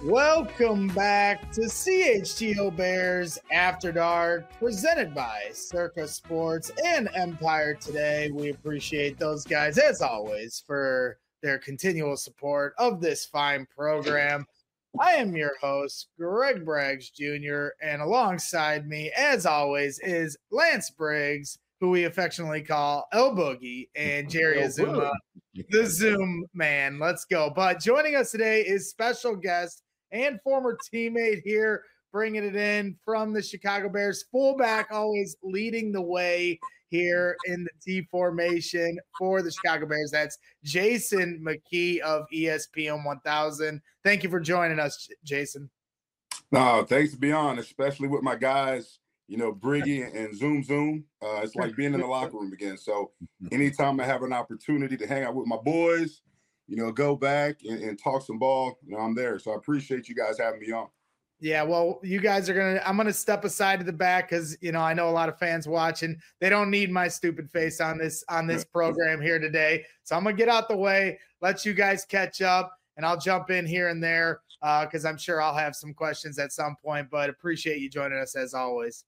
Welcome back to CHGO Bears After Dark, presented by Circa Sports and Empire Today. We appreciate those guys, as always, for their continual support of this fine program. I am your host, Greg Braggs Jr., and alongside me, as always, is Lance Briggs, who we affectionately call El Boogie, and Jerry Azuma, the Zoom man. Let's go. But joining us today is special guest and former teammate here, bringing it in from the Chicago Bears, fullback, always leading the way here in the T formation for the Chicago Bears. That's Jason McKie of ESPN 1000. Thank you for joining us, Jason. No, thanks to be on, especially with my guys, Briggy and Zoom. It's like being in the locker room again. So anytime I have an opportunity to hang out with my boys, go back and talk some ball, I'm there. So I appreciate you guys having me on. Yeah, well, you guys are I'm going to step aside to the back because, I know a lot of fans watching. They don't need my stupid face on this program here today. So I'm going to get out the way, let you guys catch up, and I'll jump in here and there because I'm sure I'll have some questions at some point, but appreciate you joining us as always.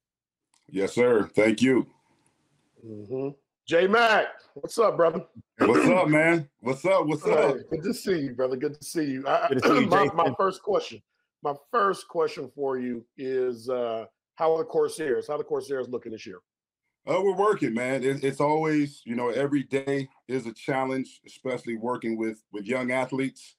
Yes, sir. Thank you. Mm-hmm. J-Mac, what's up, brother? What's up, man? What's up? Good to see you, brother. Good to see you. My first question for you is how are the Corsairs? How are the Corsairs looking this year? We're working, man. It's always, every day is a challenge, especially working with young athletes,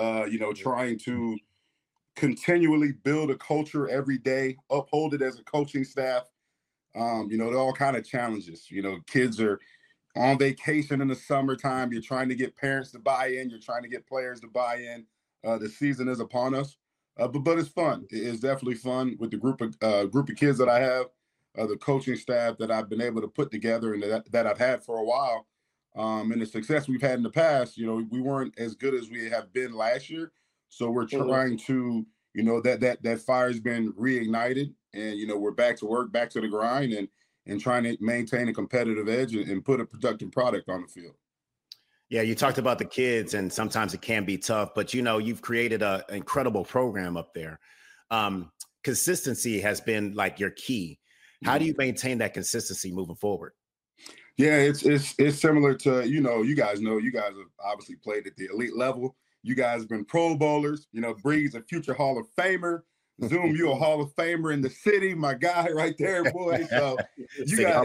trying to continually build a culture every day, uphold it as a coaching staff. There are all kind of challenges. Kids are on vacation in the summertime. You're trying to get parents to buy in. You're trying to get players to buy in. The season is upon us, but it's fun. It's definitely fun with the group of kids that I have, the coaching staff that I've been able to put together and that I've had for a while, and the success we've had in the past. We weren't as good as we have been last year, so we're trying to, that fire's been reignited. And, we're back to work, back to the grind, and trying to maintain a competitive edge and put a productive product on the field. Yeah, you talked about the kids, and sometimes it can be tough, but, you've created an incredible program up there. Consistency has been like your key. How do you maintain that consistency moving forward? Yeah, it's similar to, you guys have obviously played at the elite level. You guys have been Pro Bowlers. Bree's a future Hall of Famer. Zoom, you a Hall of Famer in the city, my guy right there, boy. So you got,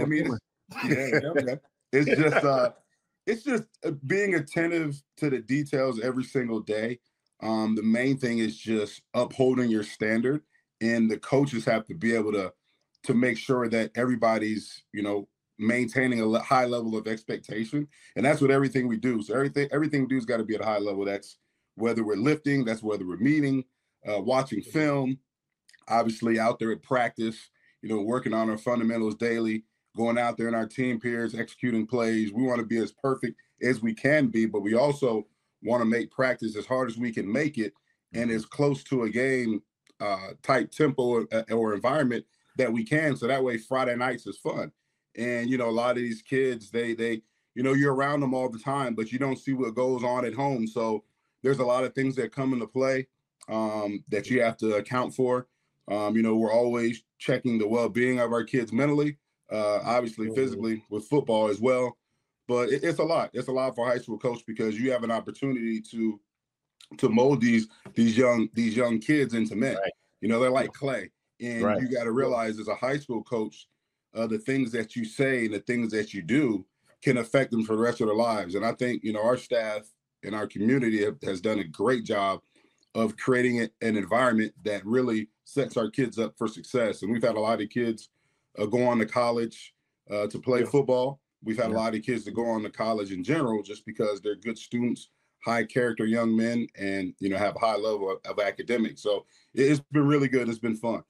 it's just being attentive to the details every single day. The main thing is just upholding your standard, and the coaches have to be able to make sure that everybody's, maintaining a high level of expectation, and that's what everything we do. So everything we do has got to be at a high level. That's whether we're lifting, that's whether we're meeting, watching film, obviously out there at practice, working on our fundamentals daily, going out there in our team peers, executing plays. We want to be as perfect as we can be, but we also want to make practice as hard as we can make it and as close to a game type tempo or environment that we can. So that way Friday nights is fun. And, a lot of these kids, they you're around them all the time, but you don't see what goes on at home. So there's a lot of things that come into play that you have to account for. We're always checking the well-being of our kids mentally, obviously physically with football as well. But it's a lot. It's a lot for a high school coach because you have an opportunity to mold these young kids into men. Right. They're like clay. And you got to realize as a high school coach, the things that you say and the things that you do can affect them for the rest of their lives. And I think, our staff and our community has done a great job of creating an environment that really sets our kids up for success. And we've had a lot of kids go on to college to play football. We've had a lot of kids that go on to college in general just because they're good students, high character young men, and, have a high level of academics. So it's been really good. It's been fun.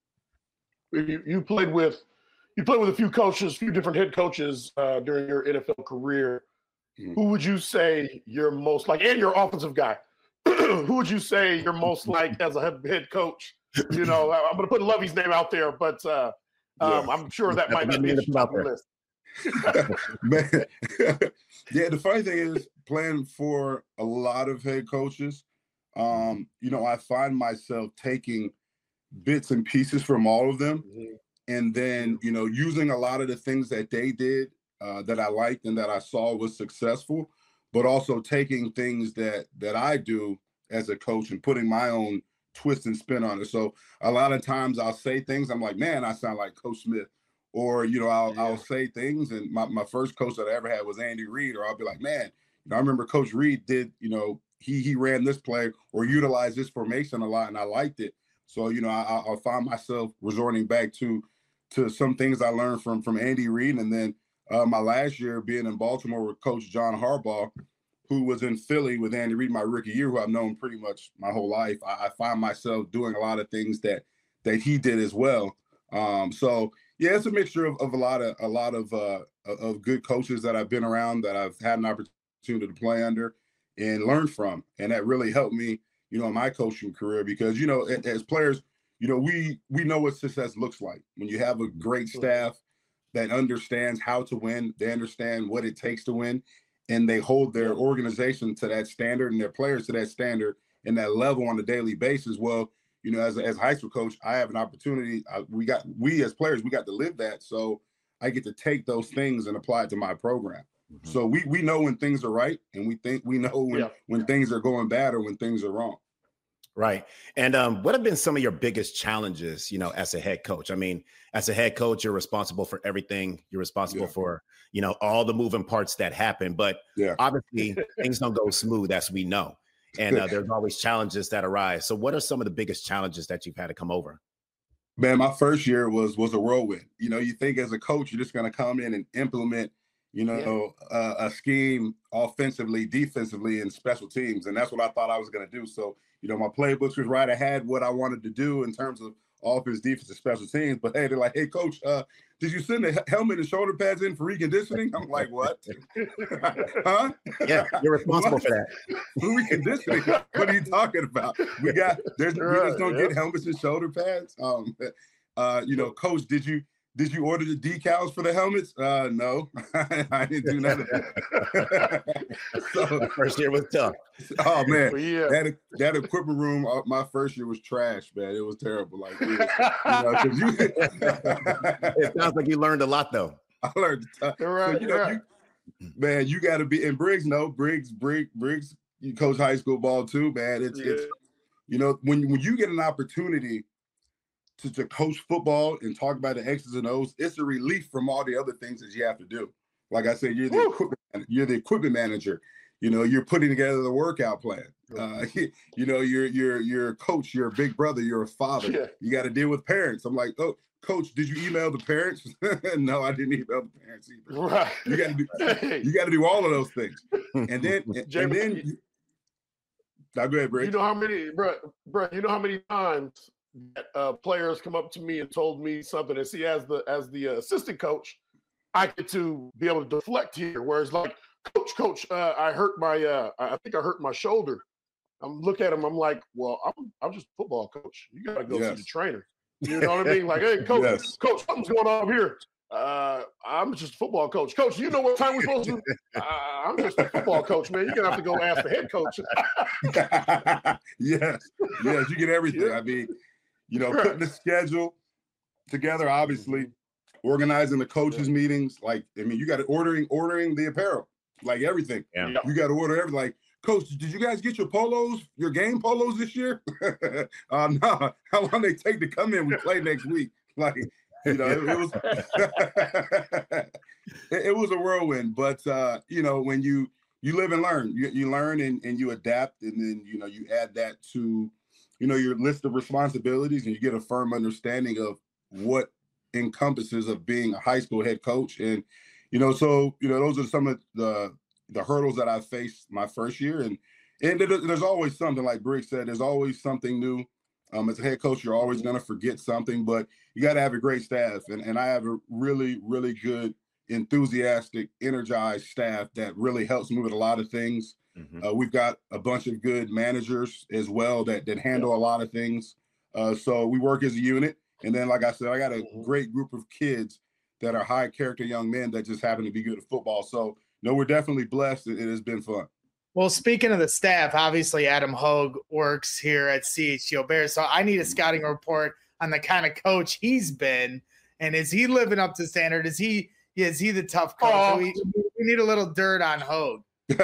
You played with a few different head coaches during your NFL career. Mm-hmm. Who would you say you're most like, and your offensive guy? Who would you say you're most like as a head coach? I'm going to put Lovey's name out there, but I'm sure that might not be the top of the list. Man. Yeah, the funny thing is playing for a lot of head coaches, I find myself taking bits and pieces from all of them, and then using a lot of the things that they did that I liked and that I saw was successful, but also taking things that I do as a coach and putting my own twist and spin on it. So a lot of times I'll say things, I'm like, man, I sound like Coach Smith. Or, I'll say things, and my first coach that I ever had was Andy Reid, or I'll be like, man, I remember Coach Reid did, he ran this play or utilized this formation a lot, and I liked it. So, I'll find myself resorting back to some things I learned from Andy Reid. And then my last year being in Baltimore with Coach John Harbaugh, who was in Philly with Andy Reid my rookie year, who I've known pretty much my whole life, I find myself doing a lot of things that he did as well. So yeah, it's a mixture of a lot of good coaches that I've been around, that I've had an opportunity to play under and learn from, and that really helped me, in my coaching career, because as players, we know what success looks like when you have a great staff that understands how to win, they understand what it takes to win, and they hold their organization to that standard and their players to that standard and that level on a daily basis. Well, as a high school coach, I have an opportunity. We as players, we got to live that. So I get to take those things and apply it to my program. Mm-hmm. So we know when things are right, and we know when things are going bad or when things are wrong. Right. And what have been some of your biggest challenges, as a head coach? I mean, as a head coach, you're responsible for everything. You're responsible for, all the moving parts that happen. But obviously things don't go smooth, as we know. And there's always challenges that arise. So what are some of the biggest challenges that you've had to come over? Man, my first year was a whirlwind. You think as a coach, you're just going to come in and implement, a scheme offensively, defensively, and special teams. And that's what I thought I was going to do. So, my playbooks was right. I had what I wanted to do in terms of offense, defense, and special teams. But hey, they're like, hey, coach, did you send the helmet and shoulder pads in for reconditioning? I'm like, what? Huh? Yeah, you're responsible for that. For reconditioning? What are you talking about? We just don't get helmets and shoulder pads. Coach, did you order the decals for the helmets? No, I didn't do none of that. So first year was tough. Oh man, that equipment room, my first year was trash, man. It was terrible. Like, it sounds like you learned a lot, though. I learned a ton. Man, you got to be. And Briggs, you coach high school ball too, man. It's when you get an opportunity to coach football and talk about the X's and O's, it's a relief from all the other things that you have to do. Like I said, you're the equipment manager. You're putting together the workout plan. You're a coach, you're a big brother, you're a father. Yeah. You got to deal with parents. I'm like, oh, coach, did you email the parents? No, I didn't email the parents either. Right. You got to do all of those things. And then now go ahead, Briggs. You know how many, bro, how many times players come up to me and told me something, and see, as the assistant coach, I get to be able to deflect here. Whereas, like, coach, I think I hurt my shoulder. I'm look at him. I'm like, well, I'm just a football coach. You gotta go see the trainer. You know what I mean? Like, hey, coach, something's going on here. I'm just a football coach. Coach, you know what time we're supposed to? I'm just a football coach, man. You're gonna have to go ask the head coach. Yes, you get everything. I mean, putting the schedule together, obviously, organizing the coaches' meetings. Like, I mean, you got to ordering the apparel, like everything. Yeah. You got to order everything. Like, coach, did you guys get your game polos this year? No. How long they take to come in? We play next week. Like, it was it was a whirlwind. But when you live and learn, you learn and you adapt, and then you add that to your list of responsibilities, and you get a firm understanding of what encompasses of being a high school head coach. And, those are some of the hurdles that I faced my first year. And there's always something, like Briggs said, there's always something new. As a head coach, you're always going to forget something, but you got to have a great staff. And I have a really, really good, enthusiastic, energized staff that really helps me with a lot of things. Mm-hmm. We've got a bunch of good managers as well that handle a lot of things. So we work as a unit. And then, like I said, I got a great group of kids that are high character young men that just happen to be good at football. So, we're definitely blessed. It has been fun. Well, speaking of the staff, obviously Adam Hogue works here at CHGO Bears, so I need a scouting report on the kind of coach he's been, and is he living up to standard? Is he the tough coach? So we need a little dirt on Hogue.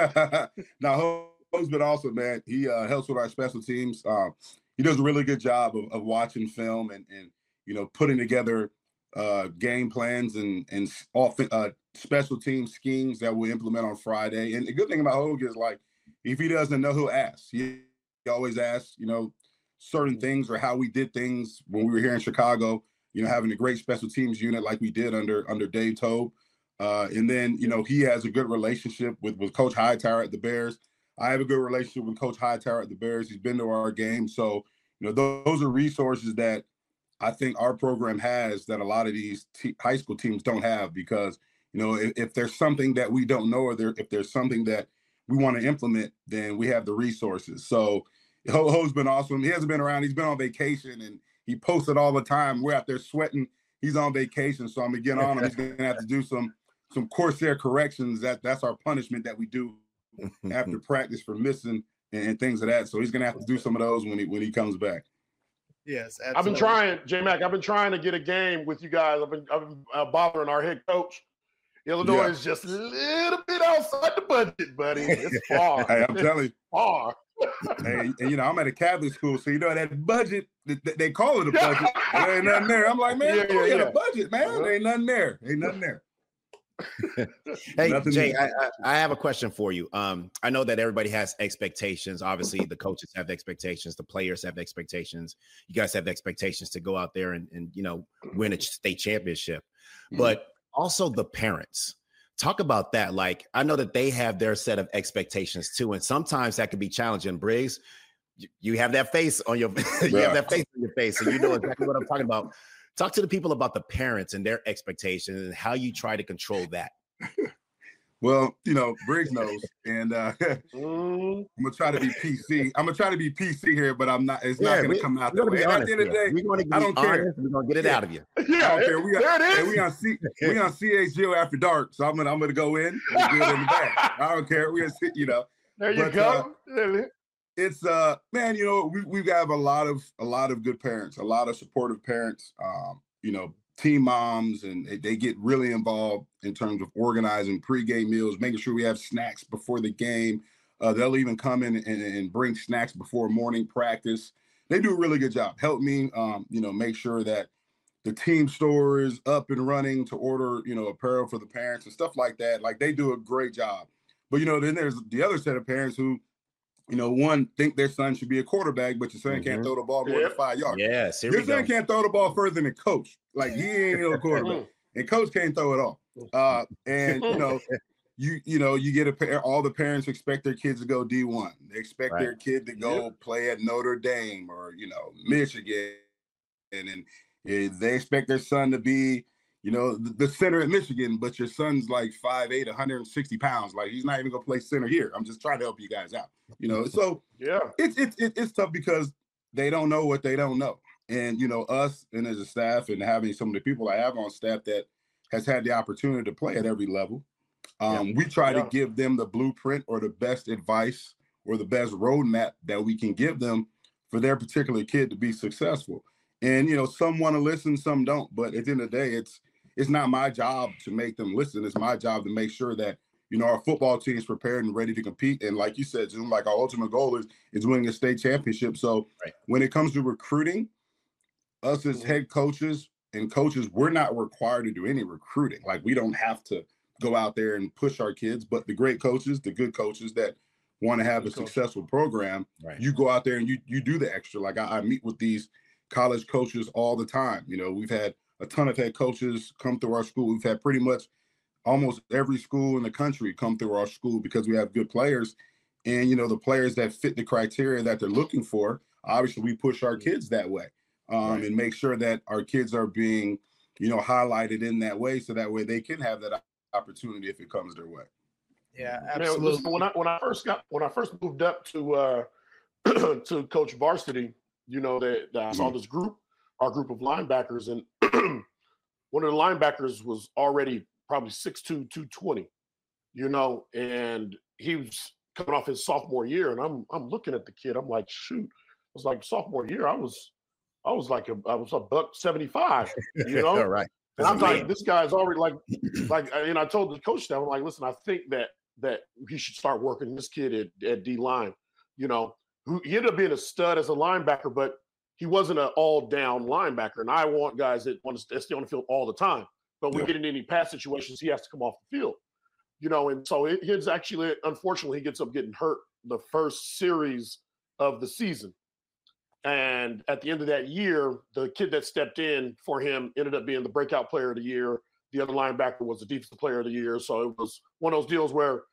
Now, Hogue's been awesome, man. He helps with our special teams. He does a really good job of watching film and putting together game plans and special team schemes that we'll implement on Friday. And the good thing about Hogue is, like, if he doesn't know, he'll ask. He always asks, certain things or how we did things when we were here in Chicago, having a great special teams unit like we did under Dave Toub. And then, he has a good relationship with Coach Hightower at the Bears. I have a good relationship with Coach Hightower at the Bears. He's been to our game. So, those are resources that I think our program has that a lot of these high school teams don't have, because, if there's something that we don't know, or if there's something that we want to implement, then we have the resources. So Ho's been awesome. He hasn't been around. He's been on vacation, and he posted all the time. We're out there sweating. He's on vacation. So I'm going to get on him. He's going to have to do some Corsair corrections. That's our punishment that we do after practice for missing and things of that. So he's going to have to do some of those when he comes back. Yes, absolutely. I've been trying, J-Mac. I've been trying to get a game with you guys. I've been bothering our head coach. Illinois is just a little bit outside the budget, buddy. It's far. Hey, I'm telling you, far. Hey, and I'm at a Catholic school, so that budget, they call it a budget. There ain't nothing there. I'm like, man, we got a budget, man. There ain't nothing there. Ain't nothing there. Hey, Jay, I have a question for you. I know that everybody has expectations. Obviously, the coaches have expectations. The players have expectations. You guys have expectations to go out there and win a state championship. Mm-hmm. But also the parents. Talk about that. Like, I know that they have their set of expectations too, and sometimes that can be challenging. Briggs, you have that face on your you have that face on your face, so you know exactly what I'm talking about. Talk to the people about the parents and their expectations and how you try to control that. Well, Briggs knows, and I'm gonna try to be PC. I'm gonna try to be PC here, but I'm not. It's not gonna come out that way. At the end of the day, I don't care. We're gonna get it out of you. Yeah, I don't care. We on CHGO after dark, so I'm gonna go in and do it in the back. I don't care. We're gonna sit, There you go. It's man, we have a lot of good parents, a lot of supportive parents. Team moms, and they get really involved in terms of organizing pregame meals, making sure we have snacks before the game. They'll even come in and bring snacks before morning practice. They do a really good job. Help me, make sure that the team store is up and running to order, apparel for the parents and stuff like that. Like, they do a great job. But, then there's the other set of parents who, one, think their son should be a quarterback, but your son can't throw the ball more than 5 yards. Yes, your son can't throw the ball further than coach. Like, he ain't no quarterback, and coach can't throw it all. And you get all the parents expect their kids to go D1. They expect their kid to go play at Notre Dame or Michigan, and they expect their son to be the center at Michigan, but your son's like 5'8", 160 pounds. Like, he's not even gonna play center here. I'm just trying to help you guys out. So it's tough because they don't know what they don't know. And us, and as a staff, and having some of the people I have on staff that has had the opportunity to play at every level, we try to give them the blueprint or the best advice or the best roadmap that we can give them for their particular kid to be successful. And some want to listen, some don't. But at the end of the day, it's not my job to make them listen. It's my job to make sure that our football team is prepared and ready to compete. And like you said, Zoom, like, our ultimate goal is winning a state championship. So when it comes to recruiting, us as head coaches and coaches, we're not required to do any recruiting. Like, we don't have to go out there and push our kids, but the great coaches, the good coaches that want to have a successful program, you go out there and you do the extra. Like, I meet with these college coaches all the time. We've had a ton of head coaches come through our school. We've had pretty much almost every school in the country come through our school because we have good players. And, the players that fit the criteria that they're looking for, obviously we push our kids that way. And make sure that our kids are being, highlighted in that way, so that way they can have that opportunity if it comes their way. Yeah, absolutely. Man, when I first moved up to to coach varsity, that I saw this group, our group of linebackers, and one of the linebackers was already probably 6'2", 220, and he was coming off his sophomore year, and I'm looking at the kid. I'm like, shoot, it was like sophomore year. I was a $175, you know. All right. And I'm like, this guy's already and I told the coach that I'm like, listen, I think that he should start working this kid at D line. You know, he ended up being a stud as a linebacker, but he wasn't an all-down linebacker. And I want guys that want to stay on the field all the time. But we get into any pass situations, he has to come off the field. You know, and so it's actually, unfortunately, he gets up getting hurt the first series of the season. And at the end of that year, the kid that stepped in for him ended up being the breakout player of the year. The other linebacker was the defensive player of the year. So it was one of those deals where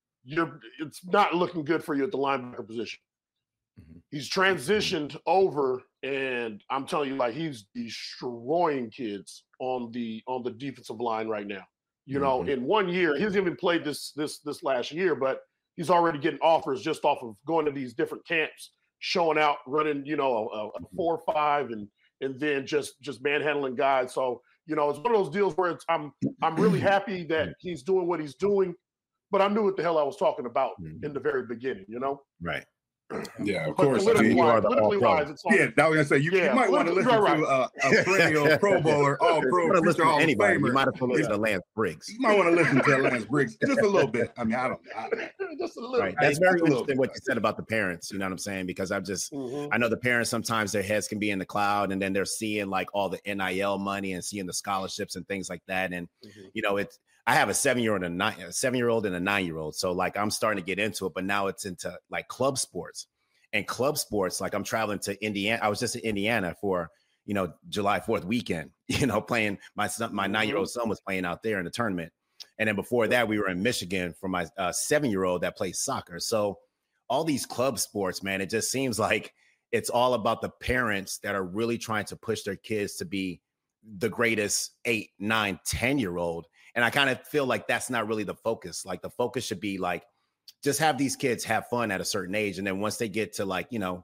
it's not looking good for you at the linebacker position. Mm-hmm. He's transitioned over, and I'm telling you, like, he's destroying kids on the defensive line right now. You know, in 1 year, he hasn't even played this last year, but he's already getting offers just off of going to these different camps, showing out, running, you know, a 4.5 and then just manhandling guys. So, you know, it's one of those deals where I'm really happy that he's doing what he's doing, but I knew what the hell I was talking about in the very beginning, you know? Right. Yeah, of course. Politically wise, it's I was gonna say you might want to listen to a perennial Pro Bowler, All Pro, listen to anybody. Famer. You might have to listen to Lance Briggs. You might want to listen to Lance Briggs just a little bit. I mean, I don't just a little. Right. That's very interesting what you said about the parents. You know what I'm saying? Because I know the parents, sometimes their heads can be in the cloud, and then they're seeing like all the NIL money and seeing the scholarships and things like that. And you know, I have a 7-year-old and a 7-year-old and a 9-year-old. So like I'm starting to get into it, but now it's into like club sports. And club sports, like I'm traveling to Indiana. I was just in Indiana for, you know, July 4th weekend, you know, playing my 9-year-old son was playing out there in the tournament. And then before that, we were in Michigan for my 7-year-old that plays soccer. So all these club sports, man, it just seems like it's all about the parents that are really trying to push their kids to be the greatest 8, 9, 10-year-old. And I kind of feel like that's not really the focus. Like the focus should be like, just have these kids have fun at a certain age. And then once they get to like, you know,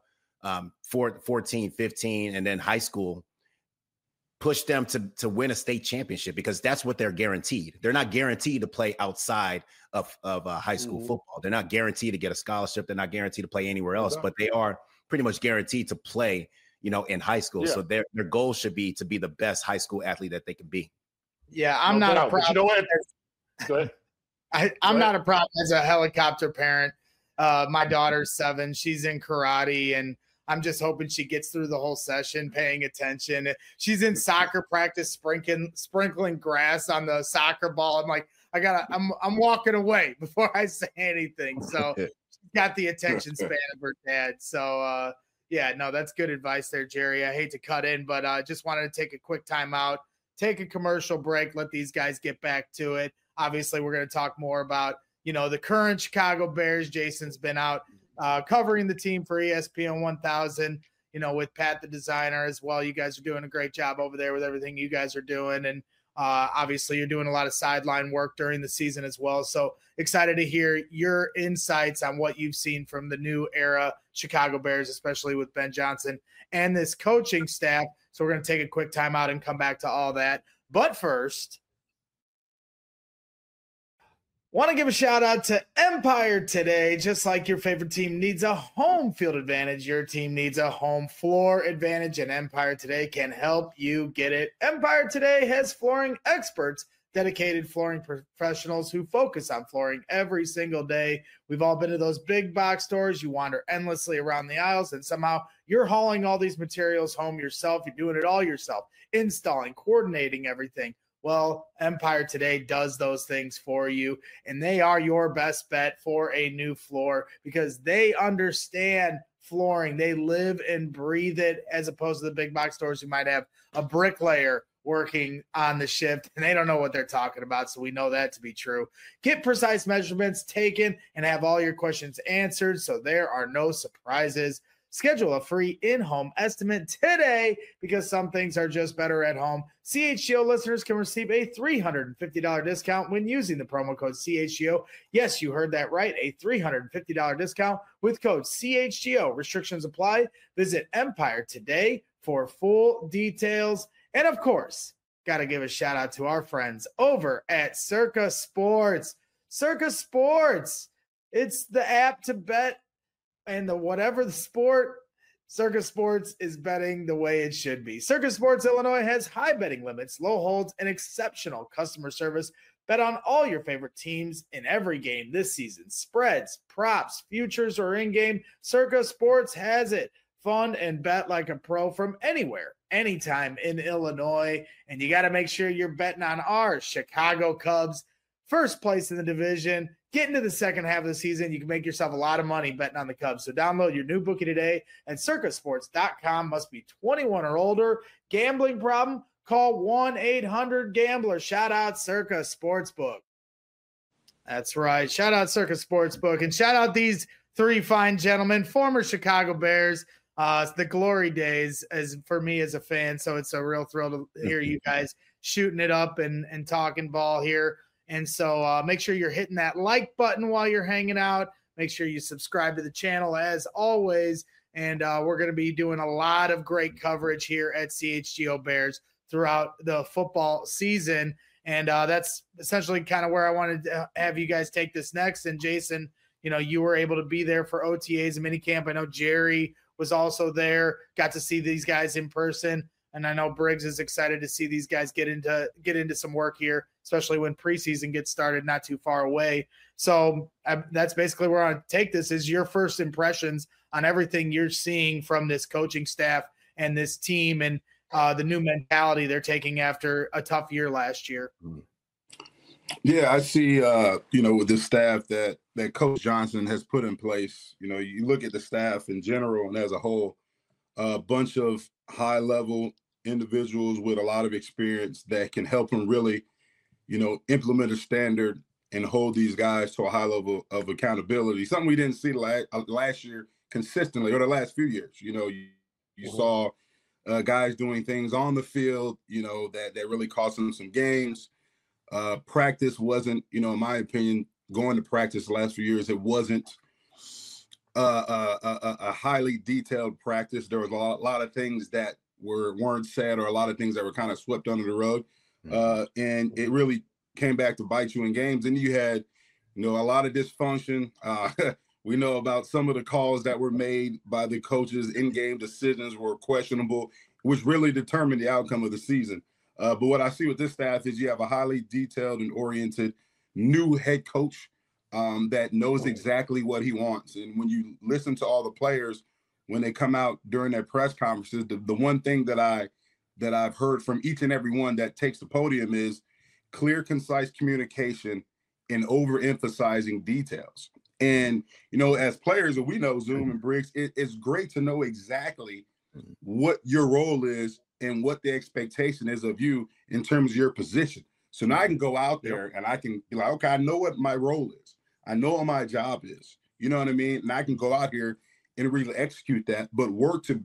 14, 15, and then high school, push them to win a state championship, because that's what they're guaranteed. They're not guaranteed to play outside of high school football. They're not guaranteed to get a scholarship. They're not guaranteed to play anywhere else, but they are pretty much guaranteed to play, you know, in high school. Yeah. So their goal should be to be the best high school athlete that they can be. Yeah, I'm not a problem. You know what? Go ahead. I'm not a problem as a helicopter parent. My daughter's 7. She's in karate, and I'm just hoping she gets through the whole session paying attention. She's in soccer practice, sprinkling grass on the soccer ball. I'm like, I'm walking away before I say anything. So she's got the attention span of her dad. So, yeah, no, that's good advice there, Jerry. I hate to cut in, but I just wanted to take a quick time out, take a commercial break, let these guys get back to it. Obviously, we're going to talk more about, you know, the current Chicago Bears. Jason's been out covering the team for ESPN 1000, you know, with Pat the designer as well. You guys are doing a great job over there with everything you guys are doing. And obviously, you're doing a lot of sideline work during the season as well. So excited to hear your insights on what you've seen from the new era Chicago Bears, especially with Ben Johnson and this coaching staff. So we're going to take a quick time out and come back to all that. But first, want to give a shout out to Empire Today. Just like your favorite team needs a home field advantage, your team needs a home floor advantage, and Empire Today can help you get it. Empire Today has flooring experts, dedicated flooring professionals who focus on flooring every single day. We've all been to those big box stores. You wander endlessly around the aisles, and somehow you're hauling all these materials home yourself. You're doing it all yourself, installing, coordinating everything. Well, Empire Today does those things for you, and they are your best bet for a new floor because they understand flooring. They live and breathe it, as opposed to the big box stores who might have a bricklayer working on the shift, and they don't know what they're talking about, so we know that to be true. Get precise measurements taken and have all your questions answered so there are no surprises. Schedule a free in-home estimate today because some things are just better at home. CHGO listeners can receive a $350 discount when using the promo code CHGO. Yes, you heard that right, a $350 discount with code CHGO. Restrictions apply. Visit Empire Today for full details. And of course, got to give a shout out to our friends over at Circa Sports. Circa Sports. It's the app to bet, and whatever the sport, Circa Sports is betting the way it should be. Circa Sports Illinois has high betting limits, low holds, and exceptional customer service. Bet on all your favorite teams in every game this season. Spreads, props, futures, or in-game, Circa Sports has it. Fun and bet like a pro from anywhere, anytime in Illinois. And you got to make sure you're betting on our Chicago Cubs, first place in the division. Get into the second half of the season. You can make yourself a lot of money betting on the Cubs. So download your new bookie today at circasports.com. Must be 21 or older. Gambling problem? Call 1-800-GAMBLER. Shout out Circa Sportsbook. That's right. Shout out Circa Sportsbook. And shout out these three fine gentlemen, former Chicago Bears. It's the glory days as for me as a fan. So it's a real thrill to hear you guys shooting it up and talking ball here. And so make sure you're hitting that like button while you're hanging out. Make sure you subscribe to the channel as always. And we're going to be doing a lot of great coverage here at CHGO Bears throughout the football season. And that's essentially kind of where I wanted to have you guys take this next. And Jason, you were able to be there for OTAs and minicamp. I know Jerry was also there, got to see these guys in person. And I know Briggs is excited to see these guys get into some work here, especially when preseason gets started not too far away. So that's basically where I take this is your first impressions on everything you're seeing from this coaching staff and this team and the new mentality they're taking after a tough year last year. Yeah, I see, with the staff that Coach Johnson has put in place. You look at the staff in general and as a whole, a bunch of high-level individuals with a lot of experience that can help them really, implement a standard and hold these guys to a high level of accountability. Something we didn't see last year consistently, or the last few years. You saw guys doing things on the field, that really cost them some games. Practice wasn't, in my opinion, going to practice the last few years, it wasn't a highly detailed practice. There was a lot of things that weren't said, or a lot of things that were kind of swept under the rug. And it really came back to bite you in games. And you had, a lot of dysfunction. We know about some of the calls that were made by the coaches. In-game decisions were questionable, which really determined the outcome of the season. But what I see with this staff is you have a highly detailed and oriented new head coach that knows exactly what he wants. And when you listen to all the players, when they come out during their press conferences, the one thing that I've heard from each and every one that takes the podium is clear, concise communication and overemphasizing details. And, as players, we know, Zoom and Briggs, it's great to know exactly what your role is and what the expectation is of you in terms of your position. So now I can go out there and I can be like, okay, I know what my role is. I know what my job is. You know what I mean? And I can go out here and really execute that, but work to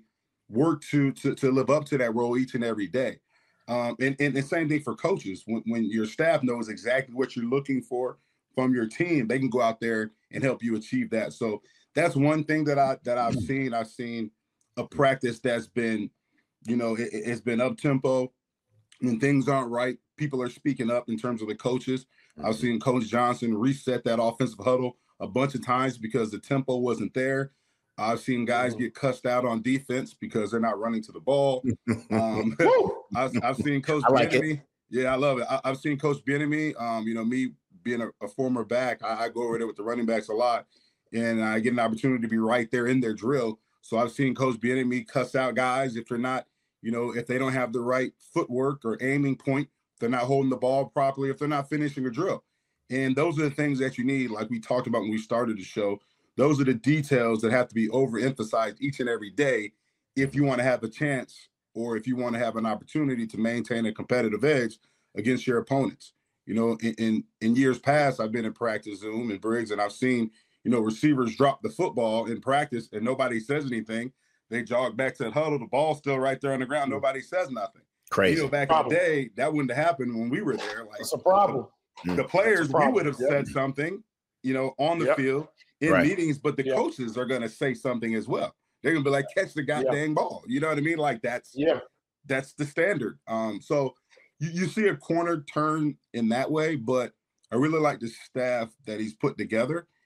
live up to that role each and every day. And the same thing for coaches. When your staff knows exactly what you're looking for from your team, they can go out there and help you achieve that. So that's one thing that I've seen. I've seen a practice that's been, it's been up tempo. When things aren't right, people are speaking up in terms of the coaches. I've seen Coach Johnson reset that offensive huddle a bunch of times because the tempo wasn't there. I've seen guys get cussed out on defense because they're not running to the ball. I've seen Coach Bieniemy. Yeah, I love it. I've seen Coach Bieniemy. Me being a former back, I go over there with the running backs a lot, and I get an opportunity to be right there in their drill. So I've seen Coach Bieniemy cuss out guys if they're not, if they don't have the right footwork or aiming point, if they're not holding the ball properly, if they're not finishing a drill. And those are the things that you need, like we talked about when we started the show. Those are the details that have to be overemphasized each and every day if you want to have a chance or if you want to have an opportunity to maintain a competitive edge against your opponents. In years past, I've been in practice, Zoom and Briggs, and I've seen, receivers drop the football in practice and nobody says anything. They jog back to the huddle, the ball's still right there on the ground. Nobody says nothing. Crazy. Back in the day, that wouldn't have happened when we were there. Like, it's a problem. The players, we would have said something, on the field in meetings, but the coaches are going to say something as well. They're going to be like, catch the goddamn ball. You know what I mean? Like that's the standard. So you see a corner turn in that way, but I really like the staff that he's put together.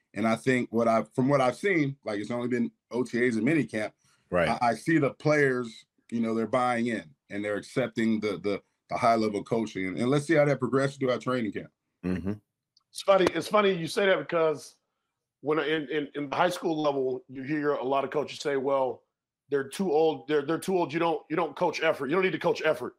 And I think from what I've seen, like it's only been OTAs and minicamp, Right. I see the players, they're buying in and they're accepting the high level coaching. And let's see how that progresses through our training camp. Mm-hmm. It's funny you say that because when in the high school level, you hear a lot of coaches say, well, they're too old. They're too old. You don't coach effort. You don't need to coach effort,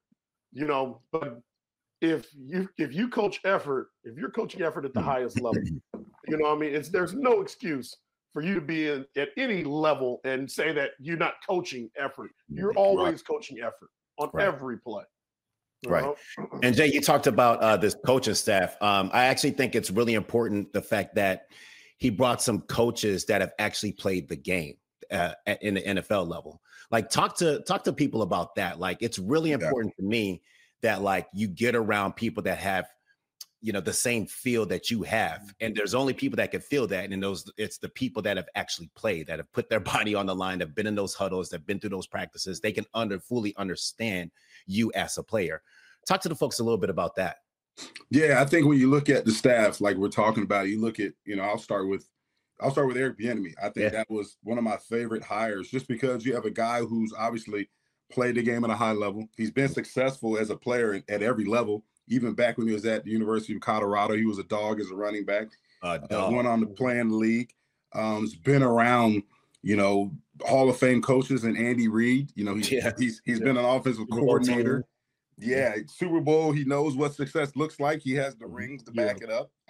but if you coach effort, if you're coaching effort at the highest level, there's no excuse for you to be at any level and say that you're not coaching effort. You're always coaching effort on every play. Right. And Jay, you talked about this coaching staff. I actually think it's really important, the fact that he brought some coaches that have actually played the game in the NFL level. Like talk to people about that. Like it's really important to me that like you get around people that have, the same feel that you have. And there's only people that can feel that. And it's the people that have actually played, that have put their body on the line, that have been in those huddles, that have been through those practices. They can fully understand you as a player. Talk to the folks a little bit about that. Yeah, I think when you look at the staff, like we're talking about, you look at, I'll start with Eric Bieniemy. I think that was one of my favorite hires, just because you have a guy who's obviously played the game at a high level. He's been successful as a player at every level. Even back when he was at the University of Colorado, he was a dog as a running back. Went on to play in the league. He's been around, Hall of Fame coaches and Andy Reid. He's been an offensive coordinator. Yeah, Super Bowl. He knows what success looks like. He has the rings to back it up.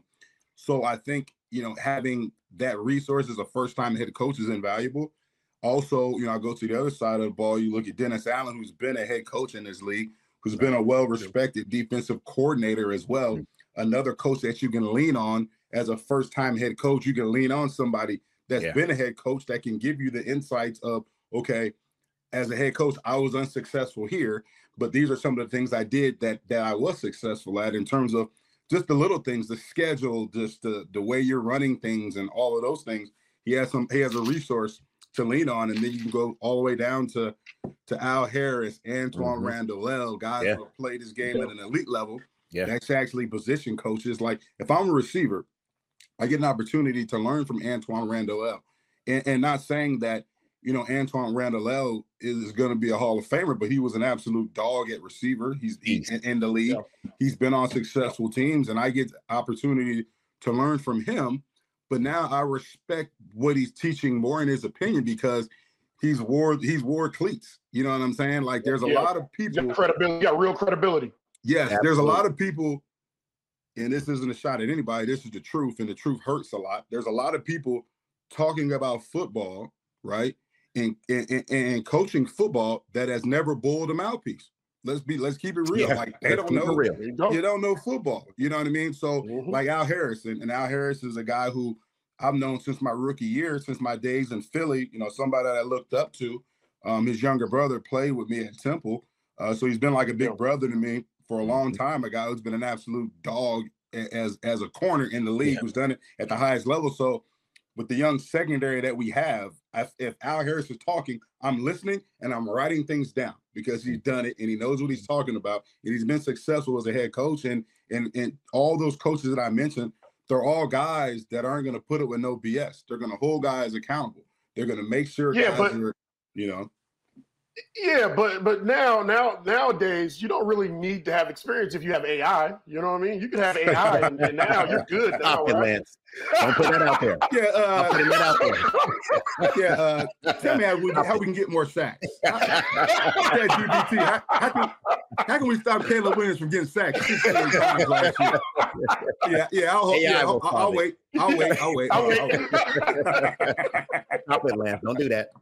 So I think, having that resource as a first-time head coach is invaluable. Also, I go to the other side of the ball. You look at Dennis Allen, who's been a head coach in this league, who's been a well-respected defensive coordinator as well. Another coach that you can lean on as a first-time head coach. You can lean on somebody that's been a head coach that can give you the insights of, okay, as a head coach, I was unsuccessful here, but these are some of the things I did that I was successful at, in terms of just the little things, the schedule, just the way you're running things and all of those things. He has a resource to lean on, and then you can go all the way down to Al Harris, Antoine Randall, guys who have played this game at an elite level. That's actually position coaches. Like if I'm a receiver, I get an opportunity to learn from Antoine Randall, and not saying that Antoine Randall is going to be a Hall of Famer, but he was an absolute dog at receiver. He's in the league. He's been on successful teams, and I get the opportunity to learn from him. But now I respect what he's teaching more, in his opinion, because he's wore cleats. You know what I'm saying? Like there's a lot of people. Credibility, got real credibility. Yes, there's a lot of people, and this isn't a shot at anybody. This is the truth, and the truth hurts a lot. There's a lot of people talking about football, right? And coaching football that has never bowled a mouthpiece. Let's keep it real. Like they don't know. You don't know football. You know what I mean? So like Al Harris, and Al Harris is a guy who I've known since my rookie year, since my days in Philly. Somebody that I looked up to. His younger brother played with me at Temple, so he's been like a big brother to me for a long time. A guy who's been an absolute dog as a corner in the league, who's done it at the highest level. So with the young secondary that we have, if Al Harris is talking, I'm listening and I'm writing things down, because he's done it and he knows what he's talking about, and he's been successful as a head coach. And all those coaches that I mentioned, they're all guys that aren't going to put it with no BS. They're going to hold guys accountable. They're going to make sure guys are, Yeah, but nowadays you don't really need to have experience if you have AI. You know what I mean? You can have AI, and now you're good. Now, right? Lance. Don't put that out there. I'm putting that out there. Tell me how we can get more sacks. GPT, how can we stop Caleb Williams from getting sacked? I'll wait. I'll wait. Stop it, Lance. Don't do that.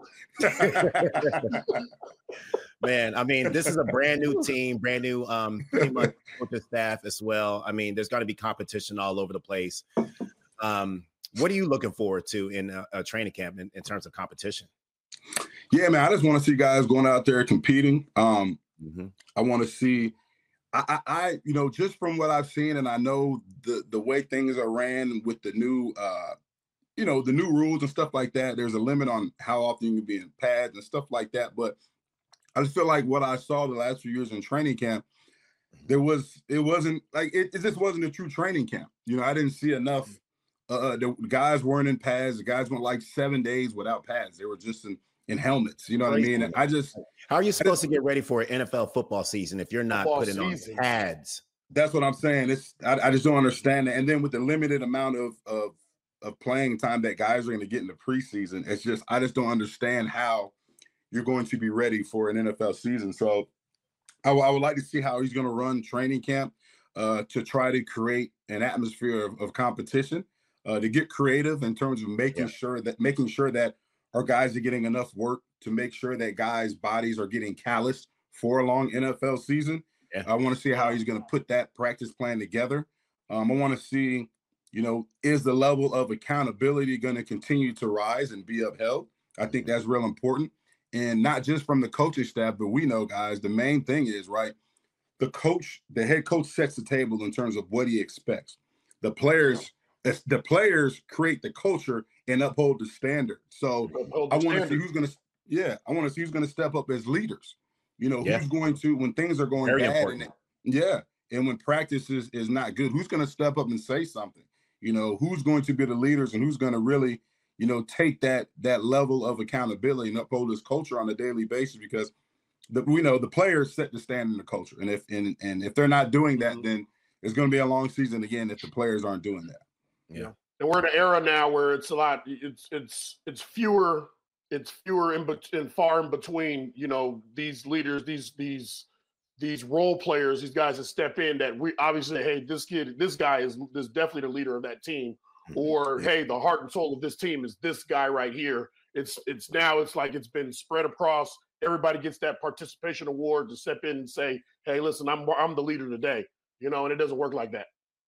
Man, I mean, this is a brand new team, brand new pretty much coaching staff as well. I mean, there's going to be competition all over the place. What are you looking forward to in a training camp in terms of competition? Yeah, man, I just want to see guys going out there competing. I want to see, I just from what I've seen, and I know the way things are ran with the new, the new rules and stuff like that. There's a limit on how often you can be in pads and stuff like that. But I just feel like what I saw the last few years in training camp, it just wasn't a true training camp. I didn't see enough the guys weren't in pads. The guys went like 7 days without pads. They were just in helmets. You know what I mean? And how are you supposed to get ready for an NFL football season if you're not putting on pads? That's what I'm saying. I just don't understand that. And then with the limited amount of playing time that guys are going to get in the preseason, I just don't understand how you're going to be ready for an NFL season. So I would like to see how he's going to run training camp to try to create an atmosphere of competition, to get creative in terms of making sure that our guys are getting enough work, to make sure that guys' bodies are getting calloused for a long NFL season. Yeah. I want to see how he's going to put that practice plan together. I want to see, is the level of accountability going to continue to rise and be upheld? I think that's real important. And not just from the coaching staff, but we know, guys, the main thing is, right, the head coach sets the table in terms of what he expects. The players create the culture and uphold the standard. So I want to see who's going to step up as leaders. Who's going to, when things are going bad, and when practice is not good, who's going to step up and say something? Who's going to be the leaders and who's going to really, take that level of accountability and uphold this culture on a daily basis, because the players set the standard in the culture. And if they're not doing that, then it's going to be a long season again if the players aren't doing that. Yeah. And we're in an era now where it's a lot, it's fewer and far in between, these leaders, these role players, these guys that step in that we obviously, hey, this guy is definitely the leader of that team. Or, hey, the heart and soul of this team is this guy right here. It's like it's been spread across. Everybody gets that participation award to step in and say, hey, listen, I'm the leader today, and it doesn't work like that.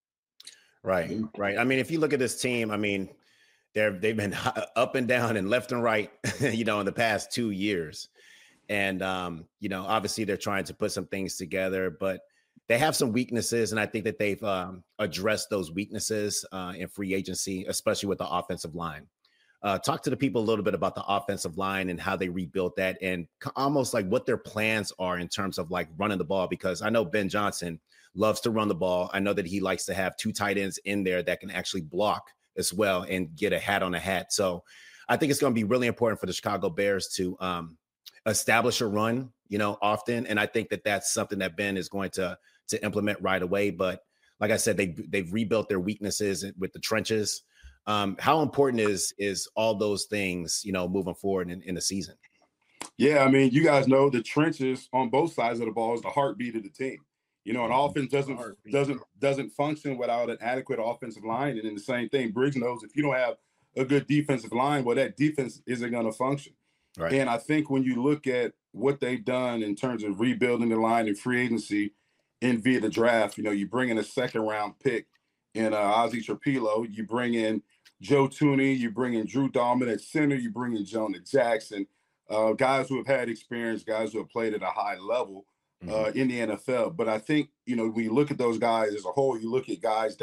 Right. I mean, if you look at this team, I mean, they've been up and down and left and right, in the past 2 years. And, obviously they're trying to put some things together, but they have some weaknesses. And I think that they've addressed those weaknesses in free agency, especially with the offensive line. Talk to the people a little bit about the offensive line and how they rebuilt that, and almost like what their plans are in terms of like running the ball, because I know Ben Johnson loves to run the ball. I know that he likes to have 2 tight ends in there that can actually block as well and get a hat on a hat. So I think it's going to be really important for the Chicago Bears to establish a run, often. And I think that that's something that Ben is going to implement right away. But like I said, they've rebuilt their weaknesses with the trenches. How important is all those things, moving forward in the season? Yeah, I mean, you guys know the trenches on both sides of the ball is the heartbeat of the team. An offense doesn't function without an adequate offensive line. And then the same thing, Briggs knows, if you don't have a good defensive line, well, that defense isn't going to function. Right. And I think when you look at what they've done in terms of rebuilding the line in free agency and via the draft, you bring in a 2nd-round pick in Ozzie Trapilo, you bring in Joe Thuney, you bring in Drew Dahlman at center, you bring in Jonah Jackson, guys who have had experience, guys who have played at a high level in the NFL. But I think, when you look at those guys as a whole, you look at guys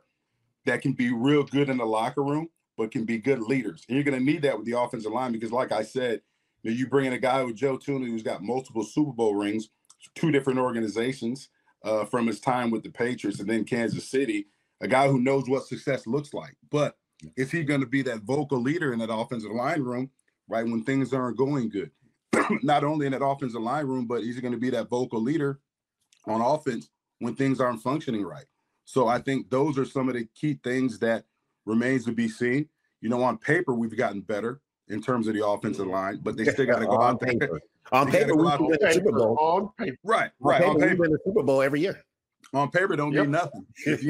that can be real good in the locker room, but can be good leaders. And you're going to need that with the offensive line, because like I said, you bring in a guy with Joe Thuney who's got multiple Super Bowl rings, 2 different organizations from his time with the Patriots and then Kansas City, a guy who knows what success looks like. But is he going to be that vocal leader in that offensive line room, right, when things aren't going good? Not only in that offensive line room, but he's going to be that vocal leader on offense when things aren't functioning right. So I think those are some of the key things that remains to be seen. On paper, we've gotten better in terms of the offensive line, but they still got to go out there. On paper, we win the Super Bowl. Right. On paper, we win the Super Bowl every year. On paper, don't mean nothing.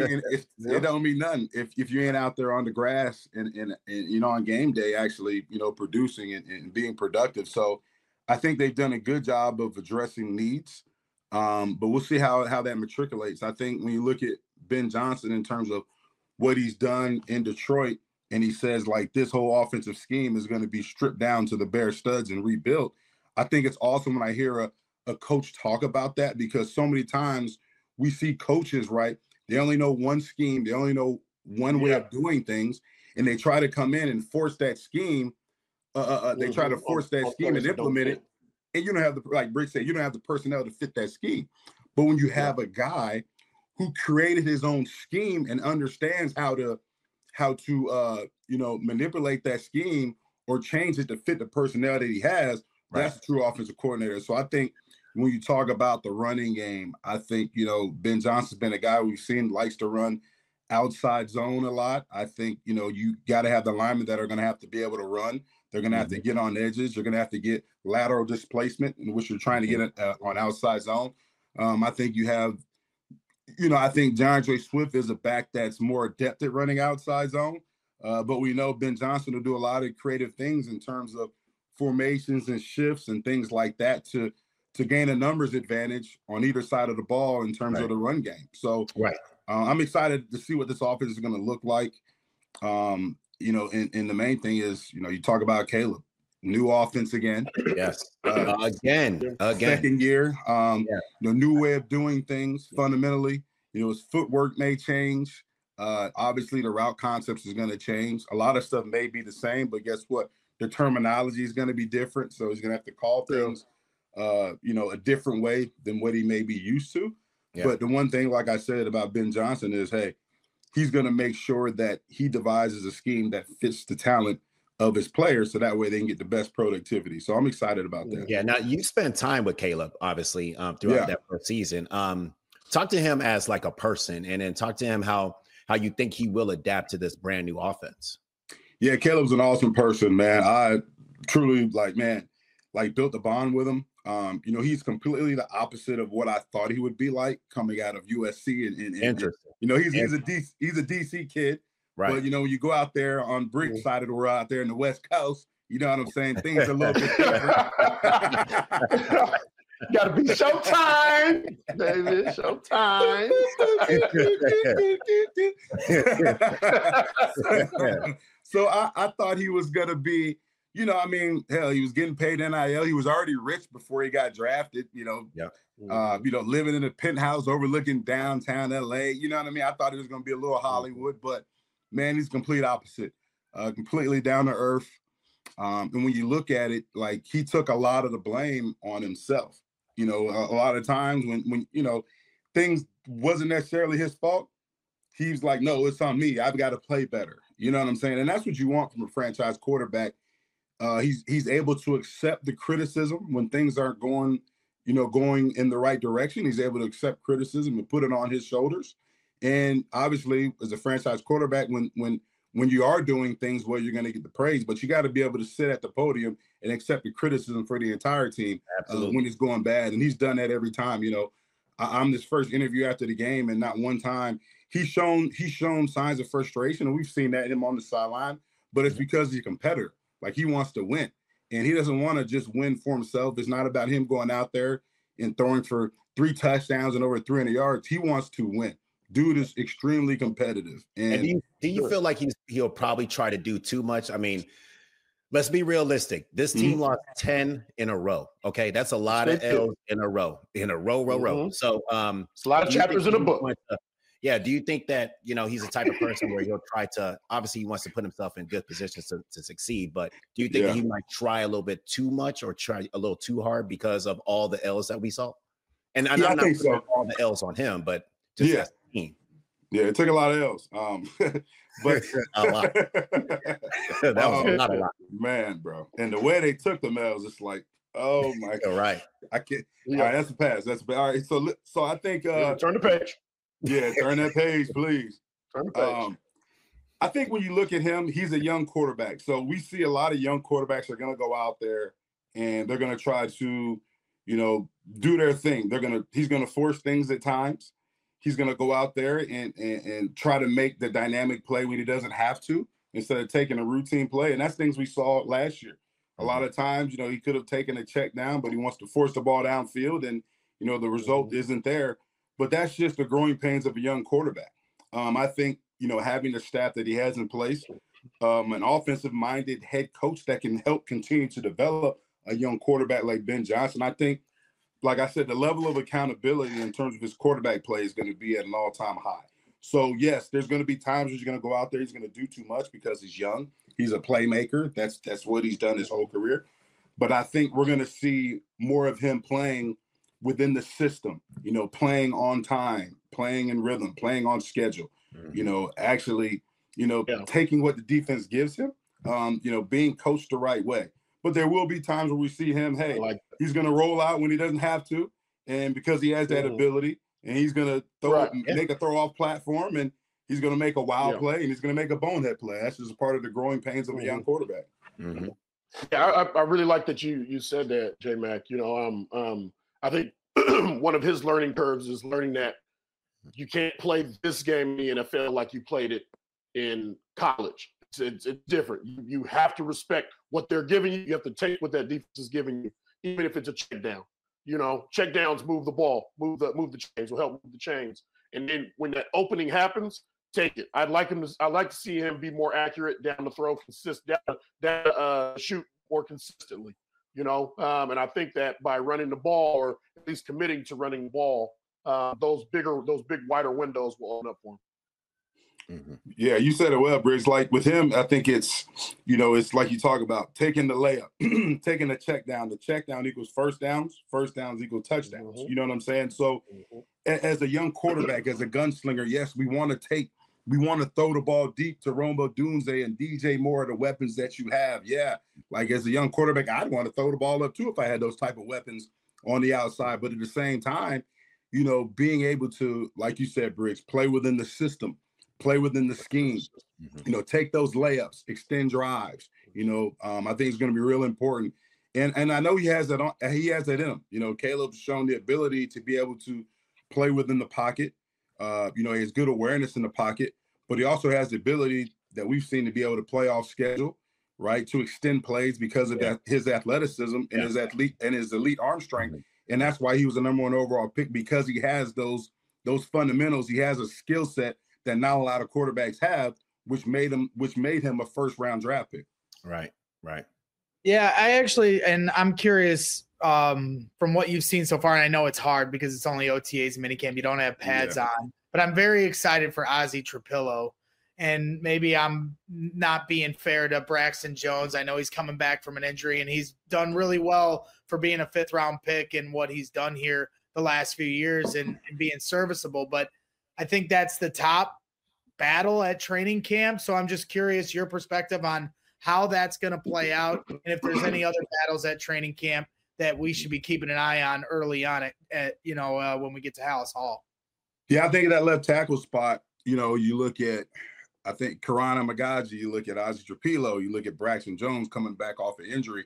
It don't mean nothing if you ain't out there on the grass and on game day actually producing and being productive. So I think they've done a good job of addressing needs, but we'll see how that matriculates. I think when you look at Ben Johnson in terms of what he's done in Detroit, and he says like this whole offensive scheme is going to be stripped down to the bare studs and rebuilt. I think it's awesome when I hear a coach talk about that, because so many times we see coaches, right, they only know one scheme, they only know one way of doing things, and they try to come in and force that scheme. They try to force that scheme and implement it, and you don't have like Brick said, you don't have the personnel to fit that scheme. But when you have a guy who created his own scheme and understands how how to manipulate that scheme or change it to fit the personnel that he has. That's a true offensive coordinator. So I think when you talk about the running game, I think, Ben Johnson's been a guy we've seen likes to run outside zone a lot. I think, you got to have the linemen that are going to have to be able to run. They're going to have to get on edges. You're going to have to get lateral displacement, in which you're trying to get on outside zone. I think you have, I think DeAndre Swift is a back that's more adept at running outside zone. But we know Ben Johnson will do a lot of creative things in terms of formations and shifts and things like that to gain a numbers advantage on either side of the ball in terms of the run game. So I'm excited to see what this offense is going to look like. And the main thing is, you talk about Caleb, new offense again. Yes. Again. Second year, new way of doing things fundamentally. His footwork may change. Obviously, the route concepts is going to change. A lot of stuff may be the same, but guess what? The terminology is going to be different. So he's going to have to call things, a different way than what he may be used to. Yeah. But the one thing, like I said about Ben Johnson is, hey, he's going to make sure that he devises a scheme that fits the talent of his players, so that way they can get the best productivity. So I'm excited about that. Yeah. Now you spent time with Caleb, obviously, throughout that first season. Talk to him as like a person, and then talk to him how you think he will adapt to this brand new offense. Yeah, Caleb's an awesome person, man. I truly built a bond with him. He's completely the opposite of what I thought he would be like coming out of USC. And he's a DC kid. Right. But, when you go out there on Brick's side of the world out there in the West Coast, you know what I'm saying? Things are a little bit different. Gotta be showtime, baby. Showtime. So I thought he was gonna be, hell, he was getting paid NIL. He was already rich before he got drafted. Living in a penthouse overlooking downtown LA. You know what I mean? I thought he was gonna be a little Hollywood, but man, he's complete opposite. Completely down to earth. And when you look at it, like, he took a lot of the blame on himself. A lot of times when things wasn't necessarily his fault, he's like, no, it's on me. I've got to play better. You know what I'm saying? And that's what you want from a franchise quarterback. He's able to accept the criticism when things aren't going in the right direction. He's able to accept criticism and put it on his shoulders. And obviously, as a franchise quarterback, when you are doing things, well, you're going to get the praise, but you got to be able to sit at the podium and accept the criticism for the entire team when it's going bad. And he's done that every time. I'm this first interview after the game, and not one time he's shown signs of frustration, and we've seen that in him on the sideline. But it's because he's a competitor. Like, he wants to win, and he doesn't want to just win for himself. It's not about him going out there and throwing for 3 touchdowns and over 300 yards. He wants to win. Dude is extremely competitive. And do you feel like he'll probably try to do too much? I mean, let's be realistic. This team lost 10 in a row. Okay, that's a lot of L's in a row. So it's a lot of chapters in a book. Do you think that he's the type of person where he'll try to, obviously he wants to put himself in good positions to succeed, but do you think that he might try a little bit too much or try a little too hard because of all the L's that we saw? And I'm not putting all the L's on him, but just as a team. Yeah, it took a lot of L's. But a lot. That was not a lot. Man, bro. And the way they took the L's, it's like, oh my God. Right. I can't. Yeah. All right, that's a pass. All right. So I think turn the page. Yeah, turn that page, please. Turn the page. I think when you look at him, he's a young quarterback. So we see a lot of young quarterbacks are gonna go out there and they're gonna try to, do their thing. He's gonna force things at times. He's going to go out there and try to make the dynamic play when he doesn't have to, instead of taking a routine play. And that's things we saw last year. A lot of times, he could have taken a check down, but he wants to force the ball downfield, and, the result isn't there. But that's just the growing pains of a young quarterback. I think, having the staff that he has in place, an offensive-minded head coach that can help continue to develop a young quarterback like Ben Johnson, I think, like I said, the level of accountability in terms of his quarterback play is going to be at an all-time high. So, yes, there's going to be times where he's going to go out there. He's going to do too much because he's young. He's a playmaker. That's what he's done his whole career. But I think we're going to see more of him playing within the system, playing on time, playing in rhythm, playing on schedule, actually, taking what the defense gives him, being coached the right way. But there will be times where we see him, he's going to roll out when he doesn't have to, and because he has that ability, and he's going to make a throw-off platform, and he's going to make a wild play, and he's going to make a bonehead play. That's just a part of the growing pains of a young quarterback. Mm-hmm. Yeah, I really like that you said that, J-Mac. I think one of his learning curves is learning that you can't play this game in the NFL like you played it in college. It's different. You have to respect what they're giving you. You have to take what that defense is giving you, even if it's a check down. Check downs move the ball, move the chains, will help move the chains. And then when that opening happens, take it. I'd like to see him be more accurate down the throw, shoot more consistently. And I think that by running the ball, or at least committing to running the ball, those big wider windows will open up for him. Mm-hmm. Yeah, you said it well, Briggs. Like with him, I think it's like you talk about taking the layup, taking the check down. The check down equals first downs equal touchdowns. Mm-hmm. You know what I'm saying? So as a young quarterback, as a gunslinger, yes, we want to throw the ball deep to Rome Odunze and DJ Moore, the weapons that you have. Yeah, like as a young quarterback, I'd want to throw the ball up too if I had those type of weapons on the outside. But at the same time, being able to, like you said, Briggs, play within the system, play within the scheme, take those layups, extend drives. I think it's going to be real important. And I know he has that in him. Caleb's shown the ability to be able to play within the pocket. He has good awareness in the pocket, but he also has the ability that we've seen to be able to play off schedule, right? To extend plays because of his athleticism and his elite arm strength. And that's why he was the #1 overall pick, because he has those fundamentals. He has a skill set that not a lot of quarterbacks have, which made him a first-round draft pick. Right. Yeah, and I'm curious from what you've seen so far, and I know it's hard because it's only OTAs minicamp. You don't have pads on, but I'm very excited for Ozzy Trapillo. And maybe I'm not being fair to Braxton Jones. I know he's coming back from an injury, and he's done really well for being a 5th-round pick and what he's done here the last few years and being serviceable. But I think that's the top battle at training camp. So I'm just curious your perspective on how that's going to play out, and if there's any other battles at training camp that we should be keeping an eye on early on when we get to Halas Hall. Yeah, I think that left tackle spot, you look at, I think Karana Magaji, you look at Ozzy Trapillo, you look at Braxton Jones coming back off an injury.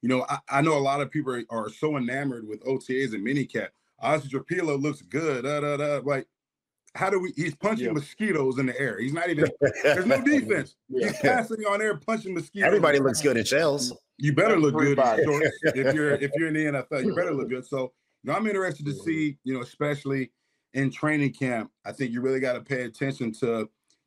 I know a lot of people are so enamored with OTAs and minicamp. Ozzy Trapillo looks good. Like, he's punching mosquitoes in the air. He's not even, there's no defense. He's passing on air, punching mosquitoes. Everybody looks good in shells. You better look good in shorts. If you're in the NFL, you better look good. So, I'm interested to see, especially in training camp, I think you really got to pay attention to,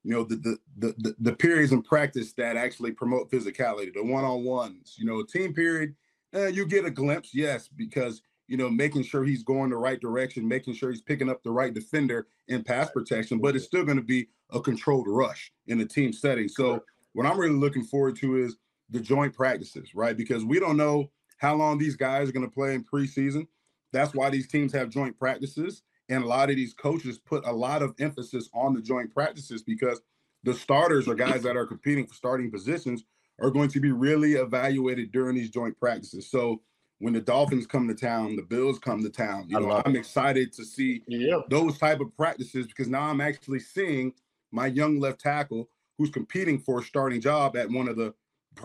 the periods in practice that actually promote physicality, the one-on-ones, team period, you get a glimpse, yes, because, making sure he's going the right direction, making sure he's picking up the right defender in pass protection, but it's still going to be a controlled rush in a team setting. So what I'm really looking forward to is the joint practices, right? Because we don't know how long these guys are going to play in preseason. That's why these teams have joint practices. And a lot of these coaches put a lot of emphasis on the joint practices because the starters or guys that are competing for starting positions are going to be really evaluated during these joint practices. So when the Dolphins come to town, the Bills come to town, I'm excited to see those type of practices because now I'm actually seeing my young left tackle who's competing for a starting job at one of the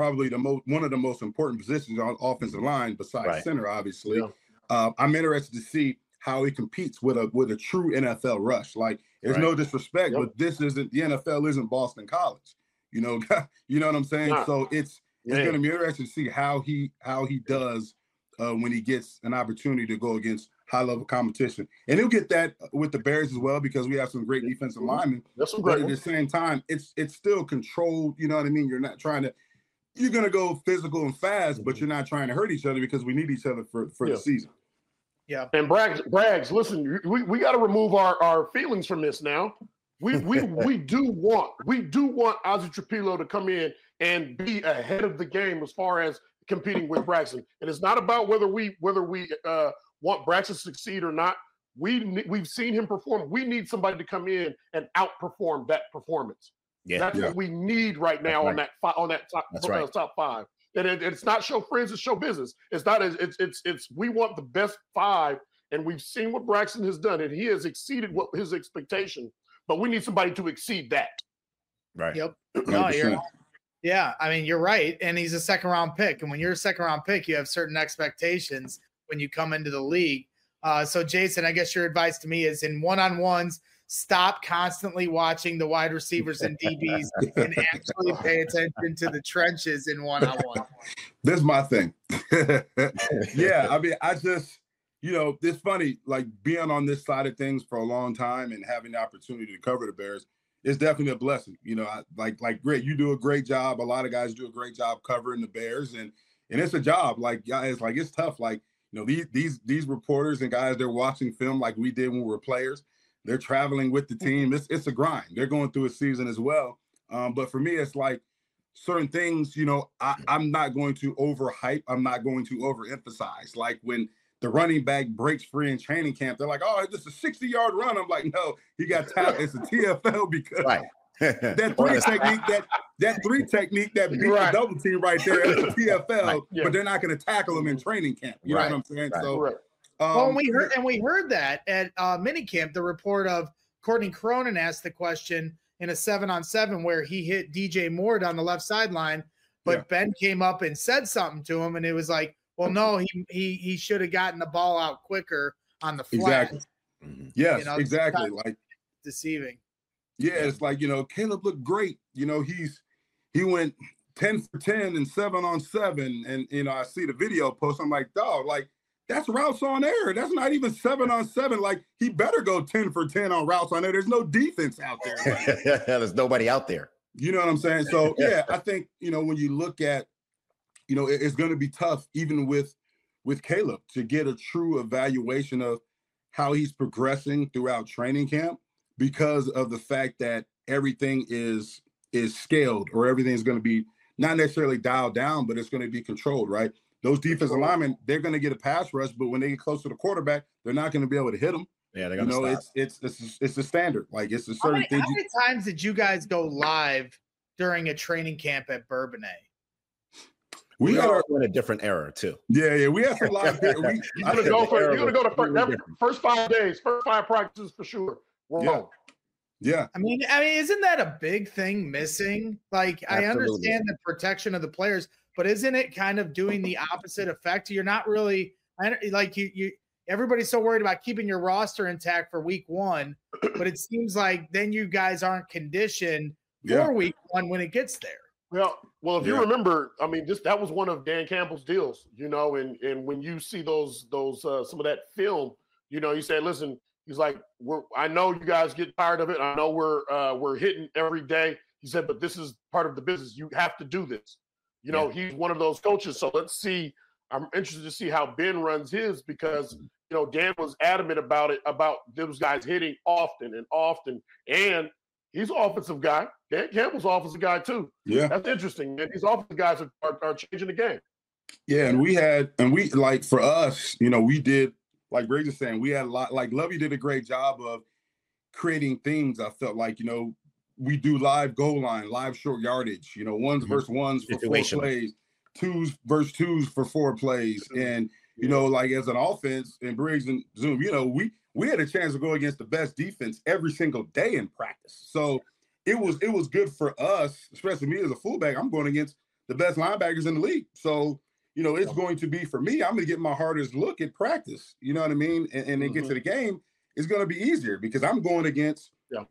most important positions on offensive line besides center, obviously. I'm interested to see how he competes with a true NFL rush. Like, there's no disrespect, but the NFL isn't Boston College. You know what I'm saying? Nah. So it's going to be interesting to see how he does when he gets an opportunity to go against high-level competition. And he'll get that with the Bears as well because we have some great defensive linemen. But at the same time, it's still controlled. You know what I mean? You're not trying to – you're going to go physical and fast, but you're not trying to hurt each other because we need each other for the season. Yeah. And Braggs, listen, we got to remove our feelings from this now. We do want Ozzy Trapillo to come in and be ahead of the game as far as competing with Braxton. And it's not about whether we want Braxton to succeed or not. We've seen him perform. We need somebody to come in and outperform that performance. Yeah. That's what we need right now on that top five. And it's not show friends, it's show business. It's not it's we want the best five, and we've seen what Braxton has done, and he has exceeded what his expectation. But we need somebody to exceed that. Right. Yep. No, yeah, I mean, you're right. And he's a second round pick. And when you're a second round pick, you have certain expectations when you come into the league. So Jason, I guess your advice to me is in one-on-ones, stop constantly watching the wide receivers and DBs and actually pay attention to the trenches in one-on-one. This is my thing. Yeah, I mean, I just, it's funny, like being on this side of things for a long time and having the opportunity to cover the Bears is definitely a blessing. Like Greg, you do a great job. A lot of guys do a great job covering the Bears, and it's a job. Like, guys, like it's tough. Like, these reporters and guys, they're watching film like we did when we were players. They're traveling with the team. It's a grind. They're going through a season as well. But for me, it's like certain things, I'm not going to overhype. I'm not going to overemphasize. Like when the running back breaks free in training camp, they're like, oh, it's a 60-yard run. I'm like, no, he got tackled. It's a TFL because that three technique that beat the double team right there is a TFL, but they're not going to tackle him in training camp. You know what I'm saying? So, well, we heard that at minicamp, the report of Courtney Cronin asked the question in a 7-on-7 where he hit DJ Moore down the left sideline, but Ben came up and said something to him, and it was like, well, no, he should have gotten the ball out quicker on the flat. Exactly. Yes, exactly. Like deceiving. Yeah, it's like, Caleb looked great. He went 10 for 10 and 7-on-7. And, I see the video post. I'm like, dog, like that's routes on air. That's not even 7-on-7. Like he better go 10 for 10 on routes on air. There's no defense out there. Like, there's nobody out there. You know what I'm saying? So, yeah, I think, when you look at, it's going to be tough even with Caleb to get a true evaluation of how he's progressing throughout training camp, because of the fact that everything is scaled, or everything's going to be not necessarily dialed down, but it's going to be controlled, right? Those defensive linemen, they're going to get a pass rush, but when they get close to the quarterback, they're not going to be able to hit them. Yeah, they're going to stop. It's the standard. Like it's a certain thing. How many times did you guys go live during a training camp at Bourbonnais? We are in a different era too. Yeah. We have some live. You're gonna go to first 5 days, first 5 practices for sure. Yeah. I mean, isn't that a big thing missing? Like, absolutely. I understand the protection of the players, but isn't it kind of doing the opposite effect? You're not really like you. Everybody's so worried about keeping your roster intact for week 1, but it seems like then you guys aren't conditioned for week 1 when it gets there. Well, if you remember, I mean, that was one of Dan Campbell's deals, and when you see those some of that film, he said, listen, he's like, I know you guys get tired of it. I know we're hitting every day. He said, but this is part of the business. You have to do this. He's one of those coaches. So let's see. I'm interested to see how Ben runs his, because, Dan was adamant about those guys hitting often, and he's an offensive guy. Dan Campbell's an offensive guy too. Yeah. That's interesting. And these offensive guys are changing the game. Yeah. And we like, for us, we did, like Greg is saying, we had a lot, like Lovey did a great job of creating things. I felt like, we do live goal line, live short yardage, ones versus ones for 4 plays, 2s versus 2s for 4 plays. And, like as an offense and Briggs and Zoom, we had a chance to go against the best defense every single day in practice. So it was good for us, especially me as a fullback. I'm going against the best linebackers in the league. So, it's going to be, for me, I'm going to get my hardest look at practice. You know what I mean? And then get to the game, it's going to be easier because I'm going against,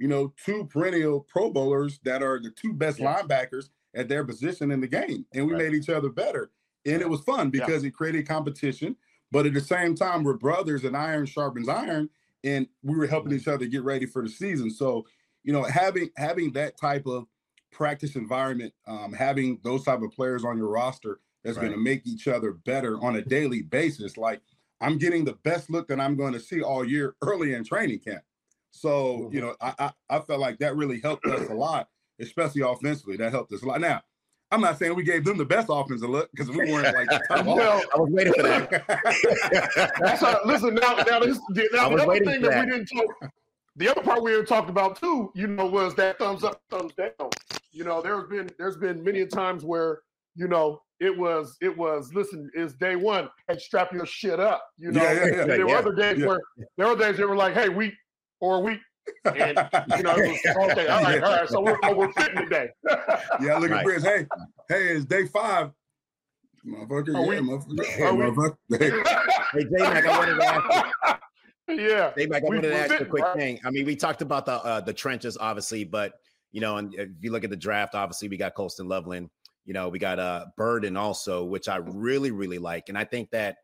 2 perennial Pro Bowlers that are the 2 best linebackers at their position in the game. And we made each other better. And it was fun because it created competition. But at the same time, we're brothers and iron sharpens iron. And we were helping each other get ready for the season. So, having that type of practice environment, having those type of players on your roster that's going to make each other better on a daily basis. Like, I'm getting the best look that I'm going to see all year early in training camp. So, I felt like that really helped us a lot, especially offensively. That helped us a lot. Now, I'm not saying we gave them the best offensive look because we weren't like the top. Well, I was waiting for that. Listen, now this the other thing that we didn't talk. the other part we had talked about too, was that thumbs up, thumbs down. There's been many times where, it was listen, it's day one, and strap your shit up. There were other days where they were like, hey, week or a week. And it was okay, all right. So we're fitting today. Yeah, look at Briz. Hey, it's day 5. Motherfucker, motherfucker. Hey, J-Mac, I wanted to ask you. Yeah. J-Mac, I wanted to ask you a quick thing. I mean, we talked about the trenches, obviously, but, and if you look at the draft, obviously, we got Colston Loveland. We got Burden also, which I really, really like. And I think that,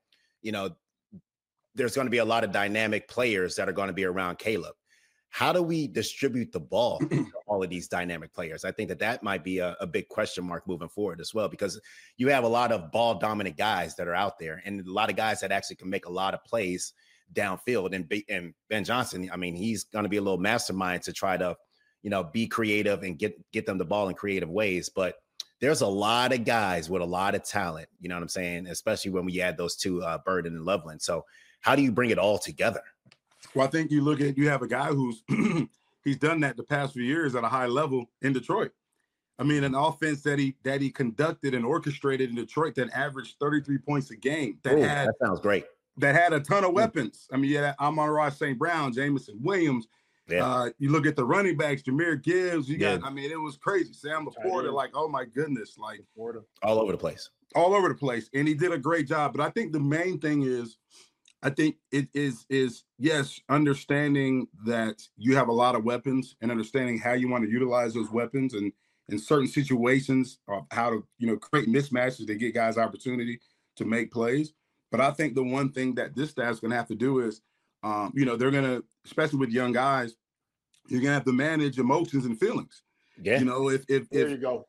there's going to be a lot of dynamic players that are going to be around Caleb. How do we distribute the ball to all of these dynamic players? I think that might be a big question mark moving forward as well, because you have a lot of ball dominant guys that are out there and a lot of guys that actually can make a lot of plays downfield. And Ben Johnson, I mean, he's going to be a little mastermind to try to, be creative and get them the ball in creative ways. But there's a lot of guys with a lot of talent, you know what I'm saying? Especially when we add those two, Burden and Loveland. So how do you bring it all together? Well, I think you have a guy who's he's done that the past few years at a high level in Detroit. I mean, an offense that he conducted and orchestrated in Detroit that averaged 33 points a game. That sounds great. That had a ton of weapons. I mean, yeah, Amon-Ra St. Brown, Jamison Williams. Yeah. You look at the running backs, Jahmyr Gibbs. I mean, it was crazy. Sam LaPorta, like, oh my goodness, like all over the place. All over the place. And he did a great job. But I think the main thing is, I think it is yes, understanding that you have a lot of weapons and understanding how you want to utilize those weapons and in certain situations of how to, create mismatches to get guys opportunity to make plays. But I think the one thing that this staff's going to have to do is, they're going to, especially with young guys, you're going to have to manage emotions and feelings. Yeah. If there you go.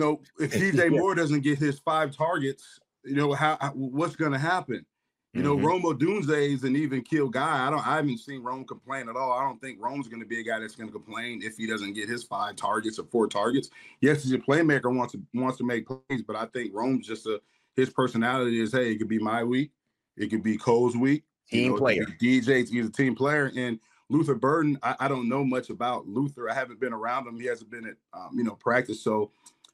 If DJ Moore doesn't get his 5 targets, what's going to happen? Rome Odunze is an even kill guy. I haven't seen Rome complain at all. I don't think Rome's going to be a guy that's going to complain if he doesn't get his 5 targets or 4 targets. Yes, he's a playmaker, wants to make plays, but I think Rome's just his personality is, hey, it could be my week, it could be Cole's week. Team player. DJ's, he's a team player. And Luther Burden, I don't know much about Luther. I haven't been around him. He hasn't been at practice, so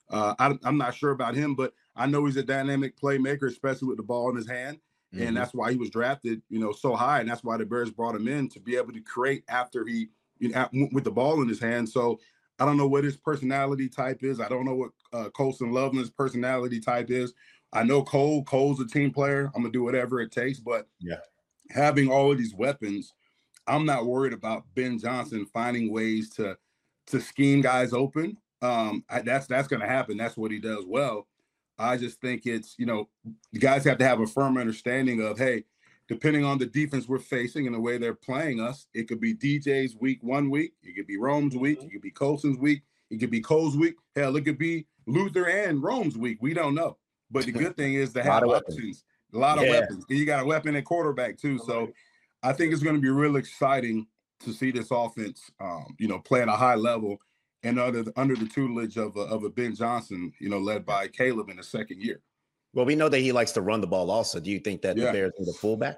I'm not sure about him. But I know he's a dynamic playmaker, especially with the ball in his hand. And that's why he was drafted, so high. And that's why the Bears brought him in to be able to create after he, with the ball in his hand. So I don't know what his personality type is. I don't know what Colston Loveland's personality type is. I know Cole's a team player. I'm going to do whatever it takes. But having all of these weapons, I'm not worried about Ben Johnson finding ways to scheme guys open. That's going to happen. That's what he does well. I just think it's, the guys have to have a firm understanding of, hey, depending on the defense we're facing and the way they're playing us, it could be DJ's week 1 week. It could be Rome's week. It could be Colston's week. It could be Cole's week. Hell, it could be Luther and Rome's week. We don't know. But the good thing is to have options, a lot of weapons. And you got a weapon at quarterback too. So I think it's going to be real exciting to see this offense, play at a high level. And under the tutelage of a Ben Johnson, led by Caleb in the second year. Well, we know that he likes to run the ball also. Do you think that the Bears need a fullback?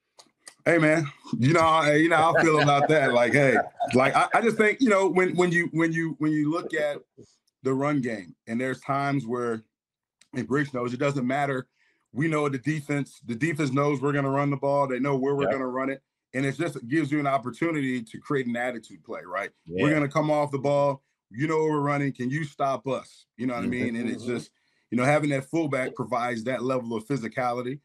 Hey, man, how I feel about that. Like, hey, like I just think, when you look at the run game, and there's times where, and Briggs knows, it doesn't matter. We know the defense knows we're going to run the ball. They know where we're going to run it. And it gives you an opportunity to create an attitude play, right? Yeah. We're going to come off the ball. Where we're running. Can you stop us? You know what I mean? And it's just, having that fullback provides that level of physicality.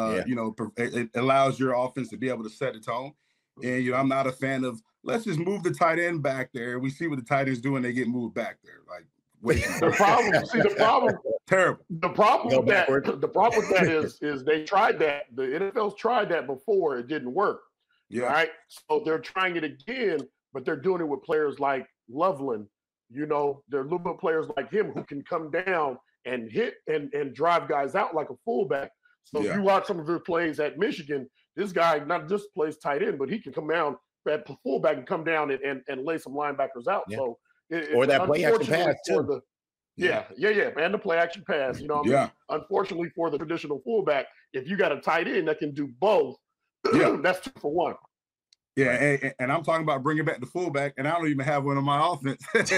It allows your offense to be able to set the tone. And, I'm not a fan of, let's just move the tight end back there. We see what the tight ends do when they get moved back there. Like, the problem, terrible. The problem with that is they tried that. The NFL's tried that before. It didn't work. Yeah. Right. So they're trying it again, but they're doing it with players like Loveland. There are little bit players like him who can come down and hit and drive guys out like a fullback. So if you watch some of their plays at Michigan, this guy not just plays tight end, but he can come down at fullback and come down and lay some linebackers out. Yeah. So or that play action pass too. And the play action pass. Unfortunately for the traditional fullback, if you got a tight end that can do both, that's 2 for 1. Yeah, and I'm talking about bringing back the fullback, and I don't even have one on my offense.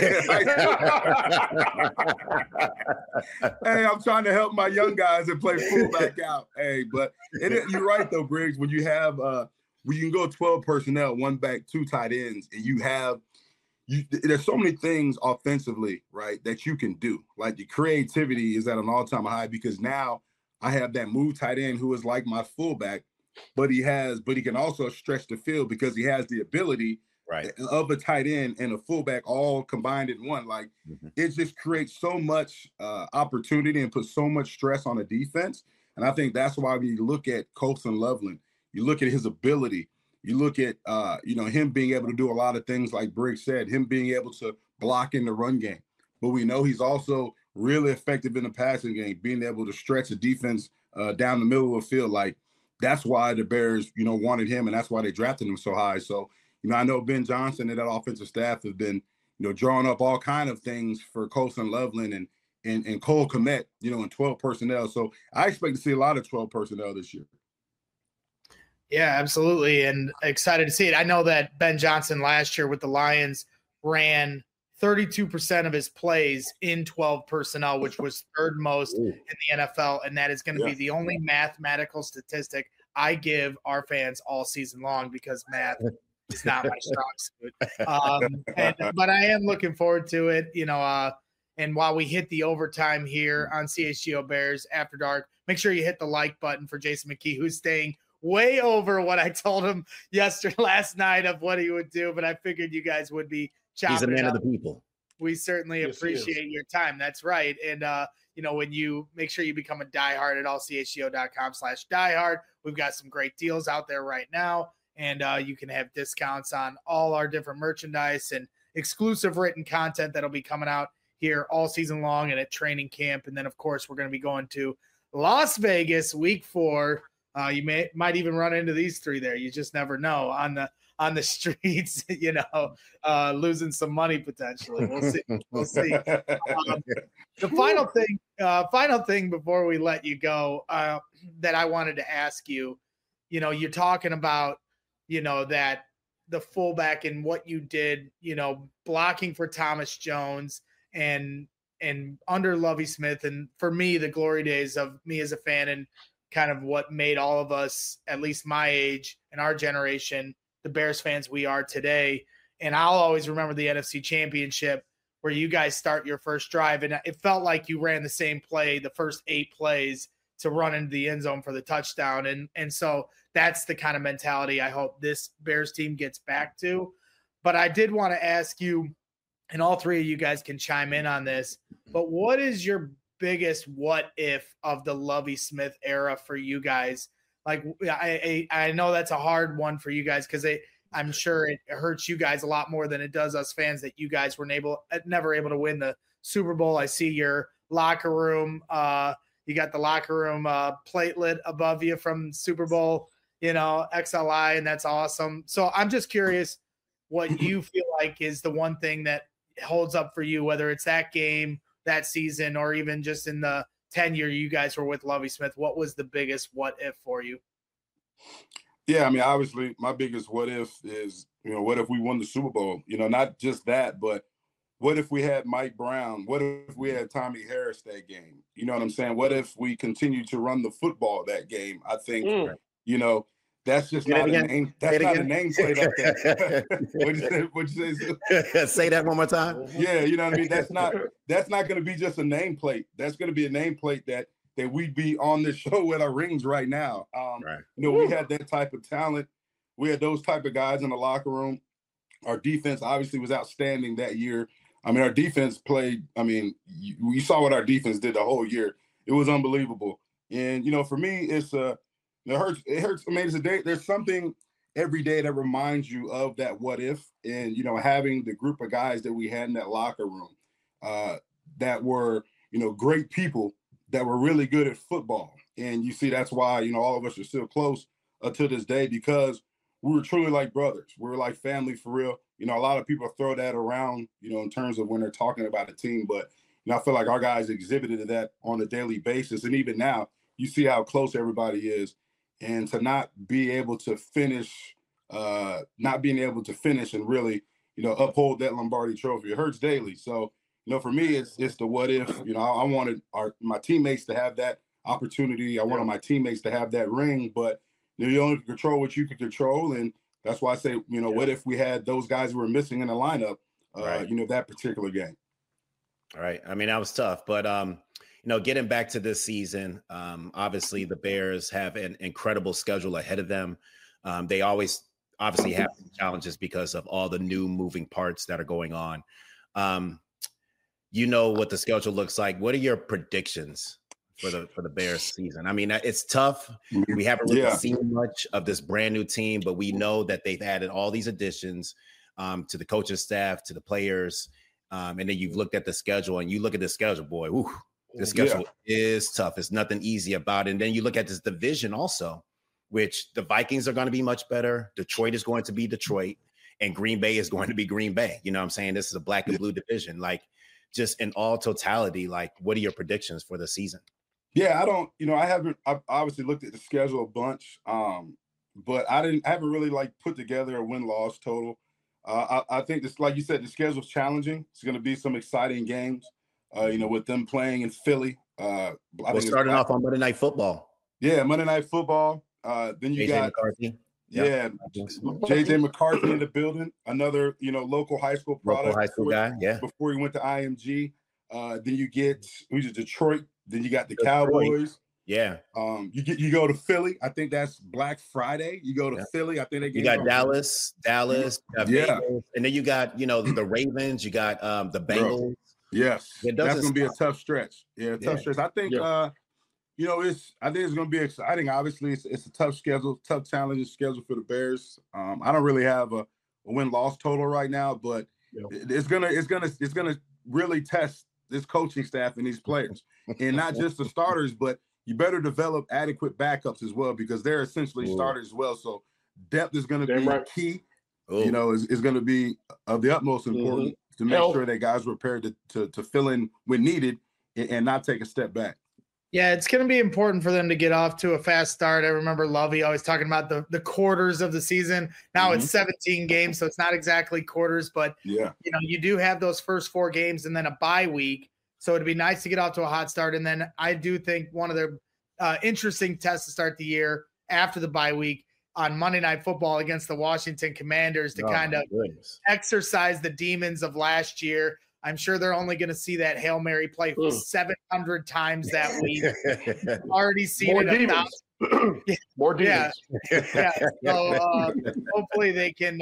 Hey, I'm trying to help my young guys that play fullback out. Hey, but you're right though, Briggs. When you have when you can go 12 personnel, one back, two tight ends, and there's so many things offensively, right, that you can do. Like the creativity is at an all-time high because now I have that move tight end who is like my fullback, but he can also stretch the field because he has the ability of a tight end and a fullback all combined in one. Like it just creates so much opportunity and puts so much stress on the defense. And I think that's why when you look at Colston Loveland, you look at his ability, you look at him being able to do a lot of things like Briggs said, him being able to block in the run game. But we know he's also really effective in the passing game, being able to stretch the defense down the middle of the field. Like that's why the Bears, wanted him, and that's why they drafted him so high. So, I know Ben Johnson and that offensive staff have been, drawing up all kind of things for Colston Loveland and Cole Kmet, in 12 personnel. So I expect to see a lot of 12 personnel this year. Yeah, absolutely. And excited to see it. I know that Ben Johnson last year with the Lions ran 32% of his plays in 12 personnel, which was third most in the NFL. And that is going to be the only mathematical statistic I give our fans all season long because math is not my strong suit. But I am looking forward to it, and while we hit the overtime here on CHGO Bears After Dark, make sure you hit the like button for Jason McKee, who's staying way over what I told him last night of what he would do, but I figured you guys would be chopping. He's a man of the people. We certainly appreciate your time. That's right. And, when you make sure you become a diehard at allchgo.com/diehard, we've got some great deals out there right now. And you can have discounts on all our different merchandise and exclusive written content that'll be coming out here all season long and at training camp. And then, of course, we're going to be going to Las Vegas week 4. You might even run into these three there. You just never know on the streets, losing some money potentially. We'll see. The final thing before we let you go that I wanted to ask you, you're talking about, that the fullback and what you did, blocking for Thomas Jones and under Lovie Smith. And for me, the glory days of me as a fan and kind of what made all of us, at least my age and our generation, the Bears fans we are today. And I'll always remember the NFC Championship where you guys start your first drive. And it felt like you ran the same play, the first 8 plays to run into the end zone for the touchdown. And so that's the kind of mentality I hope this Bears team gets back to. But I did want to ask you, and all three of you guys can chime in on this, but what is your biggest what if of the Lovie Smith era for you guys? Like, I know that's a hard one for you guys because I'm sure it hurts you guys a lot more than it does us fans that you guys were never able to win the Super Bowl. I see your locker room. You got the locker room platelet above you from Super Bowl, XLI, and that's awesome. So I'm just curious what you feel like is the one thing that holds up for you, whether it's that game, that season, or even just in the tenure you guys were with Lovie Smith. What was the biggest what if for you? Yeah, I mean, obviously my biggest what if is, what if we won the Super Bowl? Not just that, but what if we had Mike Brown? What if we had Tommy Harris that game? You know what I'm saying? What if we continued to run the football that game? I think, that's just not a name. That's not a nameplate up there. What'd you say? Say that one more time. Yeah, you know what I mean? That's not going to be just a nameplate. That's going to be a nameplate that we'd be on this show with our rings right now. We had that type of talent. We had those type of guys in the locker room. Our defense obviously was outstanding that year. I mean, our defense played. I mean, you saw what our defense did the whole year. It was unbelievable. And for me, it hurts. I mean, there's something every day that reminds you of that what if, and having the group of guys that we had in that locker room that were great people that were really good at football. And you see, that's why all of us are still close to this day because we were truly like brothers. We were like family for real. A lot of people throw that around, in terms of when they're talking about a team. But, I feel like our guys exhibited that on a daily basis. And even now, you see how close everybody is. And to not be able to finish not being able to finish and really, uphold that Lombardi trophy. It hurts daily. So, for me, it's the what if. I wanted my teammates to have that opportunity. I wanted my teammates to have that ring, but you only control what you can control. And that's why I say, what if we had those guys who were missing in the lineup, that particular game. All right. I mean, that was tough, but, getting back to this season, obviously the Bears have an incredible schedule ahead of them. They always obviously have challenges because of all the new moving parts that are going on. What the schedule looks like. What are your predictions for the Bears season? I mean, it's tough. We haven't really seen much of this brand new team, but we know that they've added all these additions to the coaching staff, to the players. And then you've looked at the schedule, and you look at the schedule, boy, the schedule is tough. It's nothing easy about it. And then you look at this division also, which the Vikings are going to be much better. Detroit is going to be Detroit, and Green Bay is going to be Green Bay. You know what I'm saying? This is a black and blue division. Like, just in all totality, like, what are your predictions for the season? Yeah, I've obviously looked at the schedule a bunch, but I haven't really put together a win-loss total. I think this, like you said, the schedule's challenging. It's going to be some exciting games, with them playing in Philly. We're starting off on Monday Night Football. Yeah, Monday Night Football. Then you got McCarthy. Yeah, JJ McCarthy in the building, another local high school product, local high school guy. Yeah, before he went to IMG. Then you get Detroit. Then you got the Cowboys. Yeah. You go to Philly. I think that's Black Friday. You go to Philly. I think you got Dallas. Vegas, and then you got the Ravens. You got the Bengals. Yes, that's gonna be a tough stretch. Yeah, tough stretch. I think I think it's going to be exciting. Obviously, it's a tough schedule, tough challenging schedule for the Bears. I don't really have a win-loss total right now, but it's gonna really test this coaching staff and these players, and not just the starters, but you better develop adequate backups as well, because they're essentially starters as well. So depth is going to be key. Is going to be of the utmost importance to make sure that guys are prepared to fill in when needed and not take a step back. Yeah, it's going to be important for them to get off to a fast start. I remember Lovey always talking about the quarters of the season. Now it's 17 games, so it's not exactly quarters, but you do have those first 4 games and then a bye week. So it'd be nice to get off to a hot start. And then I do think one of their interesting tests to start the year after the bye week on Monday Night Football against the Washington Commanders to kind of exercise the demons of last year. I'm sure they're only going to see that Hail Mary play 700 times that week. Already seen more it. Demons. More demons. Yeah. So hopefully they can,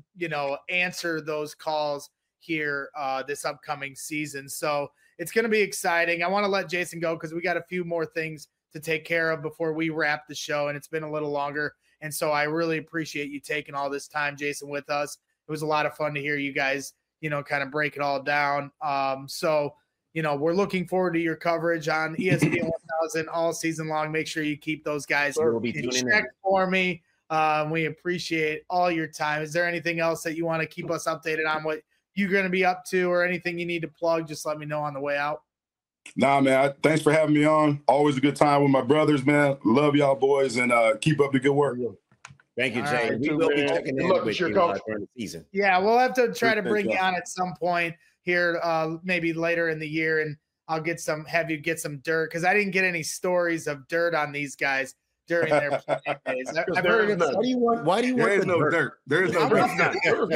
answer those calls here this upcoming season. So it's going to be exciting. I want to let Jason go because we got a few more things to take care of before we wrap the show, and it's been a little longer. And so I really appreciate you taking all this time, Jason, with us. It was a lot of fun to hear you guys kind of break it all down. So we're looking forward to your coverage on ESPN 1000 all season long. Make sure you keep those guys in check for me. We appreciate all your time. Is there anything else that you want to keep us updated on what you're going to be up to, or anything you need to plug? Just let me know on the way out. Nah, man. Thanks for having me on. Always a good time with my brothers, man. Love y'all boys, and keep up the good work. Thank you, Jay. We will be checking in with you during the season. Yeah, we'll have to try to bring you on at some point here, maybe later in the year, and I'll have you get some dirt, because I didn't get any stories of dirt on these guys during their playing days. I've heard why do you want There is no dirt. There is no dirt.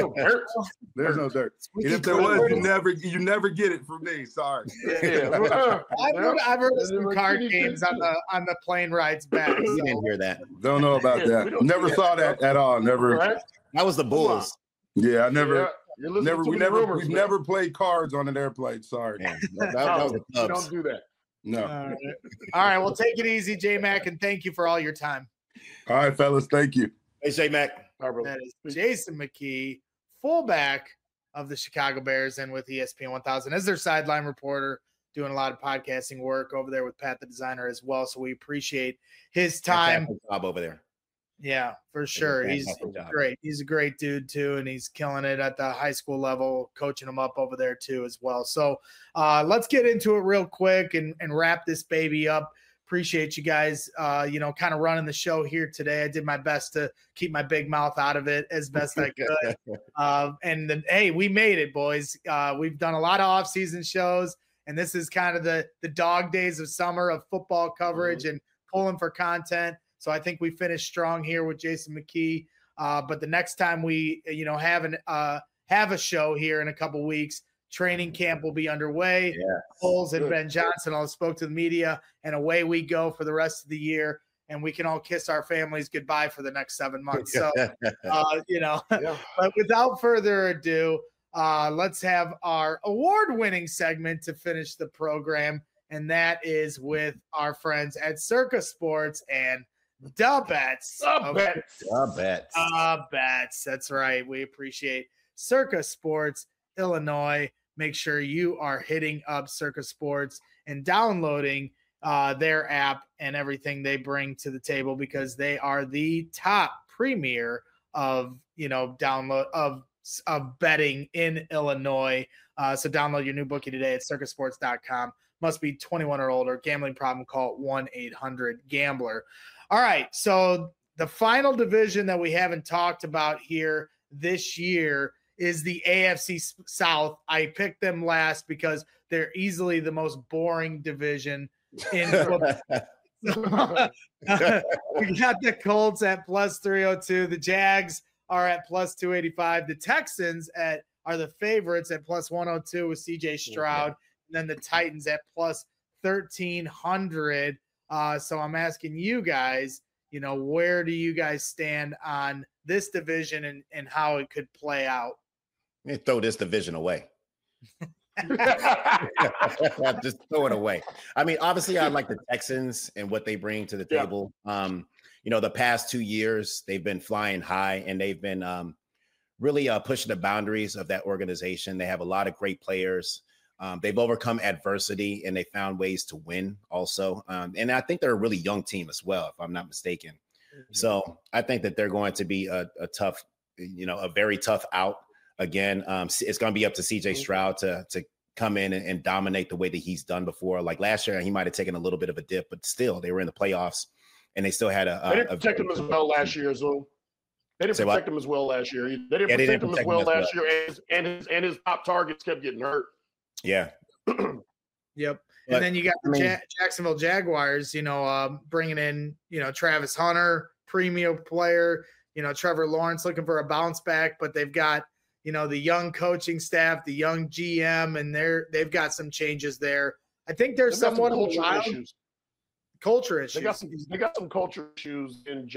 There's no dirt. And if there was, you never get it from me. Sorry. I've heard of some card games on the plane rides back. You didn't hear that. Don't know about that. Never saw that at all. Never. That was the Bulls. Yeah, I never. We've never played cards on an airplane. Sorry. Yeah, that was the Cubs. Don't do that. No. All right. Well, take it easy, J-Mac, and thank you for all your time. All right, fellas. Thank you. Hey, J-Mac. That is Jason McKie, fullback of the Chicago Bears, and with ESPN 1000 as their sideline reporter, doing a lot of podcasting work over there with Pat the Designer as well. So we appreciate his time. Job over there. Yeah, for sure. He's great. He's a great dude too, and he's killing it at the high school level, coaching them up over there too as well. So let's get into it real quick and wrap this baby up. Appreciate you guys, kind of running the show here today. I did my best to keep my big mouth out of it as best I could. Hey, we made it, boys. We've done a lot of off-season shows, and this is kind of the dog days of summer of football coverage and pulling for content. So I think we finished strong here with Jason McKie. But the next time we, have a show here in a couple weeks, training camp will be underway. Yes. Coles and Ben Johnson all spoke to the media, and away we go for the rest of the year. And we can all kiss our families goodbye for the next 7 months. So, but without further ado, let's have our award-winning segment to finish the program. And that is with our friends at Circa Sports and Da Bets. That's right. We appreciate Circa Sports Illinois. Make sure you are hitting up Circa Sports and downloading their app and everything they bring to the table, because they are the top premier of download of betting in Illinois. So download your new bookie today at circasports.com. Must be 21 or older. Gambling problem, call 1-800-GAMBLER. All right, so the final division that we haven't talked about here this year is the AFC South. I picked them last because they're easily the most boring division in football. We got the Colts at plus 302. The Jags are at plus 285. The Texans are the favorites at plus 102 with CJ Stroud. And then the Titans at plus 1,300. So I'm asking you guys, where do you guys stand on this division and how it could play out? Throw this division away. Just throw it away. I mean, obviously, I like the Texans and what they bring to the table. The past 2 years, they've been flying high, and they've been really pushing the boundaries of that organization. They have a lot of great players. They've overcome adversity, and they found ways to win also. And I think they're a really young team as well, if I'm not mistaken. So I think that they're going to be a tough, a very tough out. Again, it's going to be up to CJ Stroud to come in and dominate the way that he's done before. Like last year, he might have taken a little bit of a dip, but still, they were in the playoffs, and they still had they didn't protect him as well last year, so they didn't protect him as well last year. They didn't protect him as well last year, and his top targets kept getting hurt. Yeah. Yep. And then you got the Jacksonville Jaguars, bringing in, Travis Hunter, premium player, Trevor Lawrence looking for a bounce back, but they've got, the young coaching staff, the young GM, and they've got some changes there. I think there's somewhat of culture issues. They got some culture issues in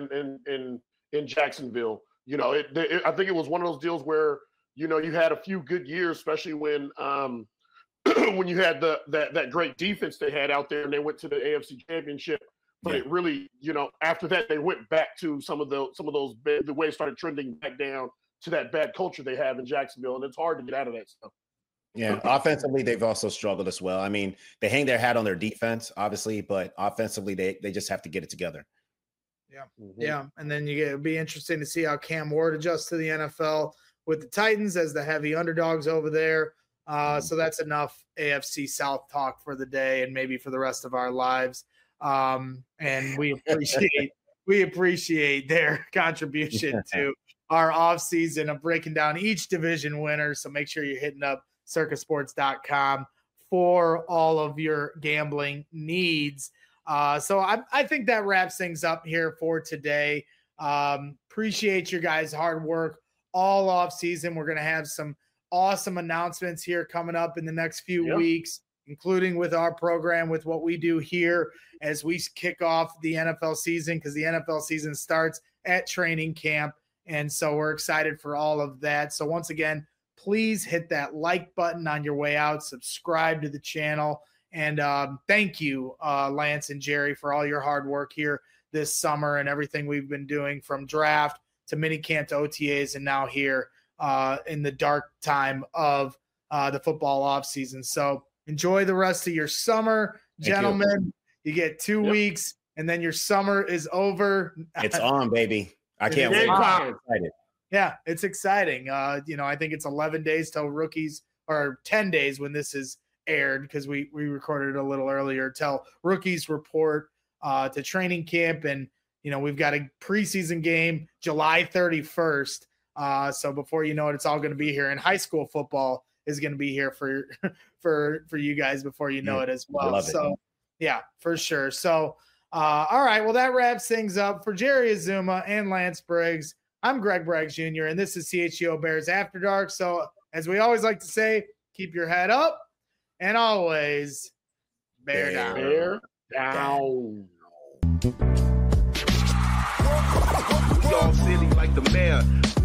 Jacksonville. I think it was one of those deals where, you had a few good years, especially when when you had that great defense they had out there, and they went to the AFC Championship. But it really, after that, they went back to some of those the way it started trending back down to that bad culture they have in Jacksonville, and it's hard to get out of that stuff. Yeah, offensively, they've also struggled as well. I mean, they hang their hat on their defense, obviously, but offensively, they just have to get it together. Yeah, yeah, and then it'll be interesting to see how Cam Ward adjusts to the NFL with the Titans as the heavy underdogs over there. So that's enough AFC South talk for the day and maybe for the rest of our lives. And we appreciate their contribution to our offseason of breaking down each division winner. So make sure you're hitting up circasports.com for all of your gambling needs. So I think that wraps things up here for today. Appreciate your guys' hard work all off season. We're going to have some awesome announcements here coming up in the next few weeks, including with our program, with what we do here as we kick off the NFL season, because the NFL season starts at training camp. And so we're excited for all of that. So once again, please hit that like button on your way out, subscribe to the channel. And thank you, Lance and Jerry, for all your hard work here this summer and everything we've been doing from draft to minicamp to OTAs and now here in the dark time of the football offseason. So enjoy the rest of your summer, gentlemen. You get 2 weeks, and then your summer is over. It's on, baby. I can't wait. I'm excited. Yeah, it's exciting. I think it's 11 days till rookies, or 10 days when this is aired because we recorded it a little earlier, till rookies report to training camp. And, we've got a preseason game July 31st. So before you know it, it's all going to be here. And high school football is going to be here for you guys before you know it as well. So, yeah, for sure. So, all right. Well, that wraps things up for Jerry Azuma and Lance Briggs. I'm Greg Braggs Jr., and this is CHGO Bears After Dark. So, as we always like to say, keep your head up and always bear down. Bear down. We all silly like the mayor.